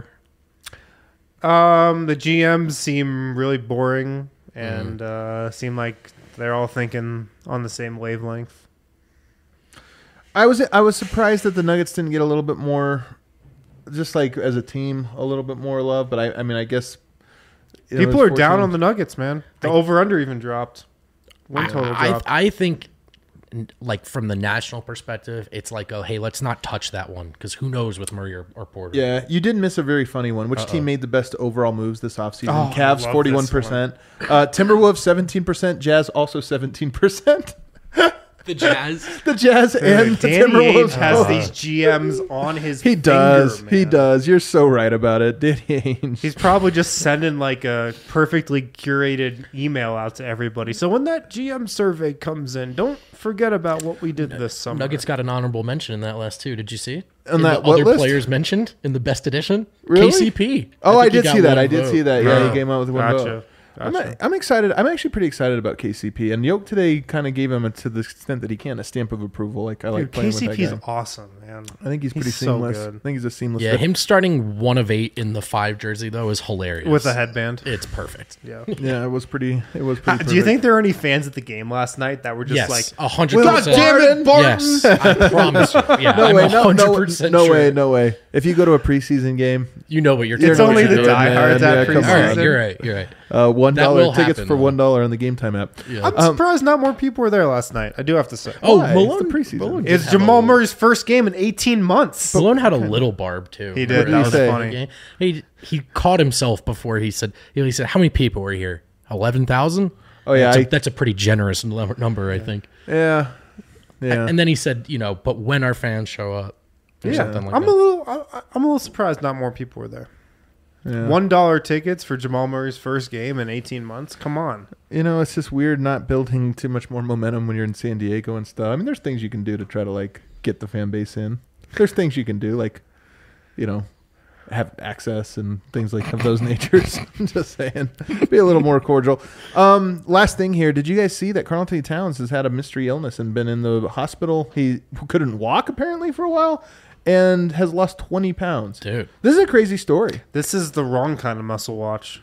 The GMs seem really boring and seem like they're all thinking on the same wavelength. I was surprised that the Nuggets didn't get a little bit more, just like as a team, a little bit more love. But I mean, I guess People are down on the Nuggets, man. The over/under even dropped. Win total dropped. I think, like from the national perspective, it's like, oh, hey, let's not touch that one because who knows with Murray or Porter. Yeah, you did miss a very funny one. Which team made the best overall moves this offseason? Oh, I Cavs love 41%, Timberwolves 17%, Jazz also 17%. The Jazz. The Jazz and the Danny Timberwolves Ainge has both. these GMs on his He does. finger, He man. does. You're so right about it. Danny Ainge. He's probably just sending like a perfectly curated email out to everybody. So when that GM survey comes in, don't forget about what we did this summer. Nuggets got an honorable mention in that list too. Did you see? On In that the what other list? players mentioned in the best edition? Really? KCP. Oh, I think he did got see that. one I did vote. see that. Yeah, he came out with one Gotcha. vote. Gotcha. I'm excited. I'm actually pretty excited about KCP. And Yoke today kind of gave him, to the extent that he can, a stamp of approval. Like I like Dude, playing with that KCP's guy. awesome, man. I think he's pretty so seamless. good. I think he's a seamless. Yeah, fit. him starting 1 of 8 in the 5 jersey though is hilarious. With a headband. It's perfect. Yeah. Yeah, it was pretty. It was Do pretty. you perfect. think there were any fans at the game last night that were just Yes, like, 100%. God damn it, Barton! Yes, I promise you. Yeah, No I'm way, no, 100% no sure. way, no way. If you go to a preseason game, You know what you're You're It's talking only about. the doing, diehards man. at Yeah, come All right, preseason. you're right. You're right. $1 That will tickets happen, for though. $1 on the Game Time app. Yeah. I'm surprised not more people were there last night. I do have to say. Oh, Why? Malone. It's the preseason. Malone did It's have Jamal a- Murray's first game in 18 months. Malone had a little barb too. He did. Remember That was the funny. game? He caught himself before he said how many people were here? 11,000. Oh, yeah, that's a pretty generous number, I think. Yeah. Yeah. And then he said, but when our fans show up, or Yeah. something like I'm that. a little surprised not more people were there. Yeah. $1 tickets for Jamal Murray's first game in 18 months. Come on. It's just weird not building too much more momentum when you're in San Diego and stuff. I mean, there's things you can do to try to like get the fan base in. There's things you can do, like, have access and things like of those natures. I'm just saying, be a little more cordial. Last thing here, did you guys see that Karl Anthony Towns has had a mystery illness and been in the hospital? He couldn't walk apparently for a while and has lost 20 pounds. Dude. This is a crazy story. This is the wrong kind of muscle watch.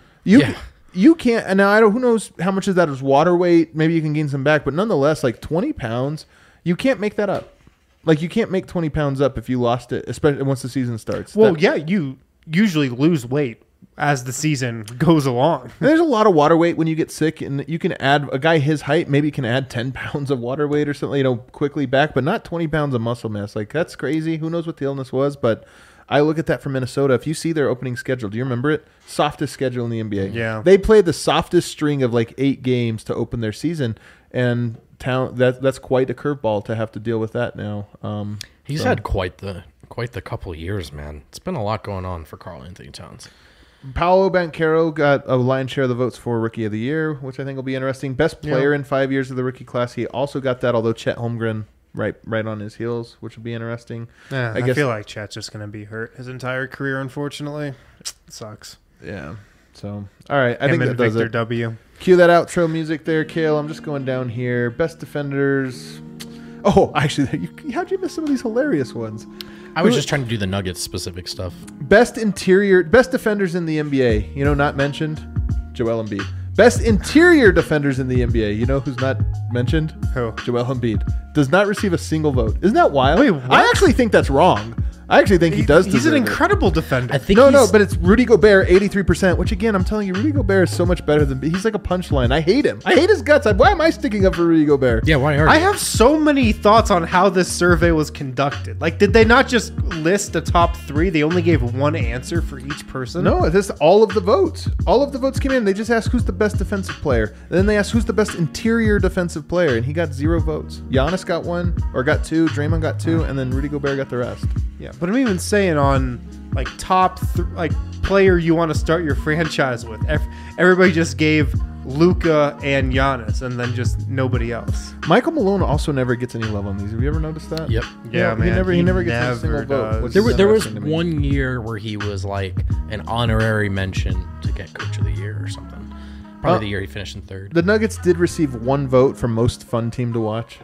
You can't, and now I don't. Who knows how much of that is water weight? Maybe you can gain some back, but nonetheless, like 20 pounds, you can't make that up. Like you can't make 20 pounds up if you lost it, especially once the season starts. Well, yeah, you usually lose weight as the season goes along. And there's a lot of water weight when you get sick, and you can add a guy his height maybe can add 10 pounds of water weight or something, quickly back, but not 20 pounds of muscle mass. Like that's crazy. Who knows what the illness was? But I look at that for Minnesota. If you see their opening schedule, do you remember it? Softest schedule in the NBA. Yeah. They played the softest string of like 8 games to open their season, and that's quite a curveball to have to deal with that now. He's had quite the couple of years, man. It's been a lot going on for Karl Anthony Towns. Paolo Banchero got a lion's share of the votes for Rookie of the Year, which I think will be interesting. Best player in 5 years of the rookie class. He also got that, although Chet Holmgren right on his heels, which will be interesting. Yeah, I guess- feel like Chet's just going to be hurt his entire career, unfortunately. It sucks. Yeah. So, all right. I Him think that and does Victor it. W. Cue that outro music there, Kale. I'm just going down here. Best defenders. Oh, actually, how'd you miss some of these hilarious ones? I was just trying to do the Nuggets specific stuff. Best defenders in the NBA. Not mentioned? Joel Embiid. Best interior defenders in the NBA. You know who's not mentioned? Who? Joel Embiid. Does not receive a single vote. Isn't that wild? Wait, what? I actually think that's wrong. I actually think he does He's an deserve it. incredible defender. I think No, but it's Rudy Gobert, 83%, which again, I'm telling you, Rudy Gobert is so much better than... He's like a punchline. I hate him. I hate his guts. Why am I sticking up for Rudy Gobert? Yeah, why are I you? have so many thoughts on how this survey was conducted. Like, did they not just list the top 3? They only gave one answer for each person? No, this all of the votes. All of the votes came in. They just asked who's the best defensive player. And then they asked who's the best interior defensive player, and he got 0 votes. Giannis got 1, or got 2. Draymond got 2, and then Rudy Gobert got the rest. Yeah, but I'm even saying on, like, top player you want to start your franchise with. Everybody just gave Luka and Giannis, and then just nobody else. Michael Malone also never gets any love on these. Have you ever noticed that? Yep. Yeah, man. He never gets a single never vote. does. which There, is there was interesting to me. one year where he was like an honorary mention to get Coach of the Year or something. Probably the year he finished in 3rd. The Nuggets did receive 1 vote for most fun team to watch.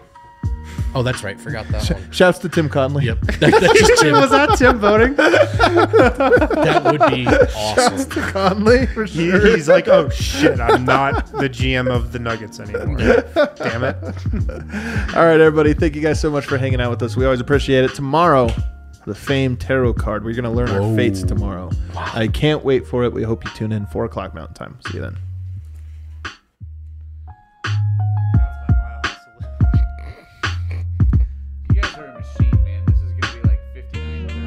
Oh, that's right. Forgot that one. Shouts to Tim Conley. Yep. That's just Tim. Was that Tim voting? That would be awesome. To Conley for sure. He's like, oh shit, I'm not the GM of the Nuggets anymore. Damn it. All right, everybody. Thank you guys so much for hanging out with us. We always appreciate it. Tomorrow, the famed tarot card. We're going to learn our fates tomorrow. Wow. I can't wait for it. We hope you tune in 4 o'clock Mountain Time. See you then. You guys are a machine, man. This is gonna be like 59.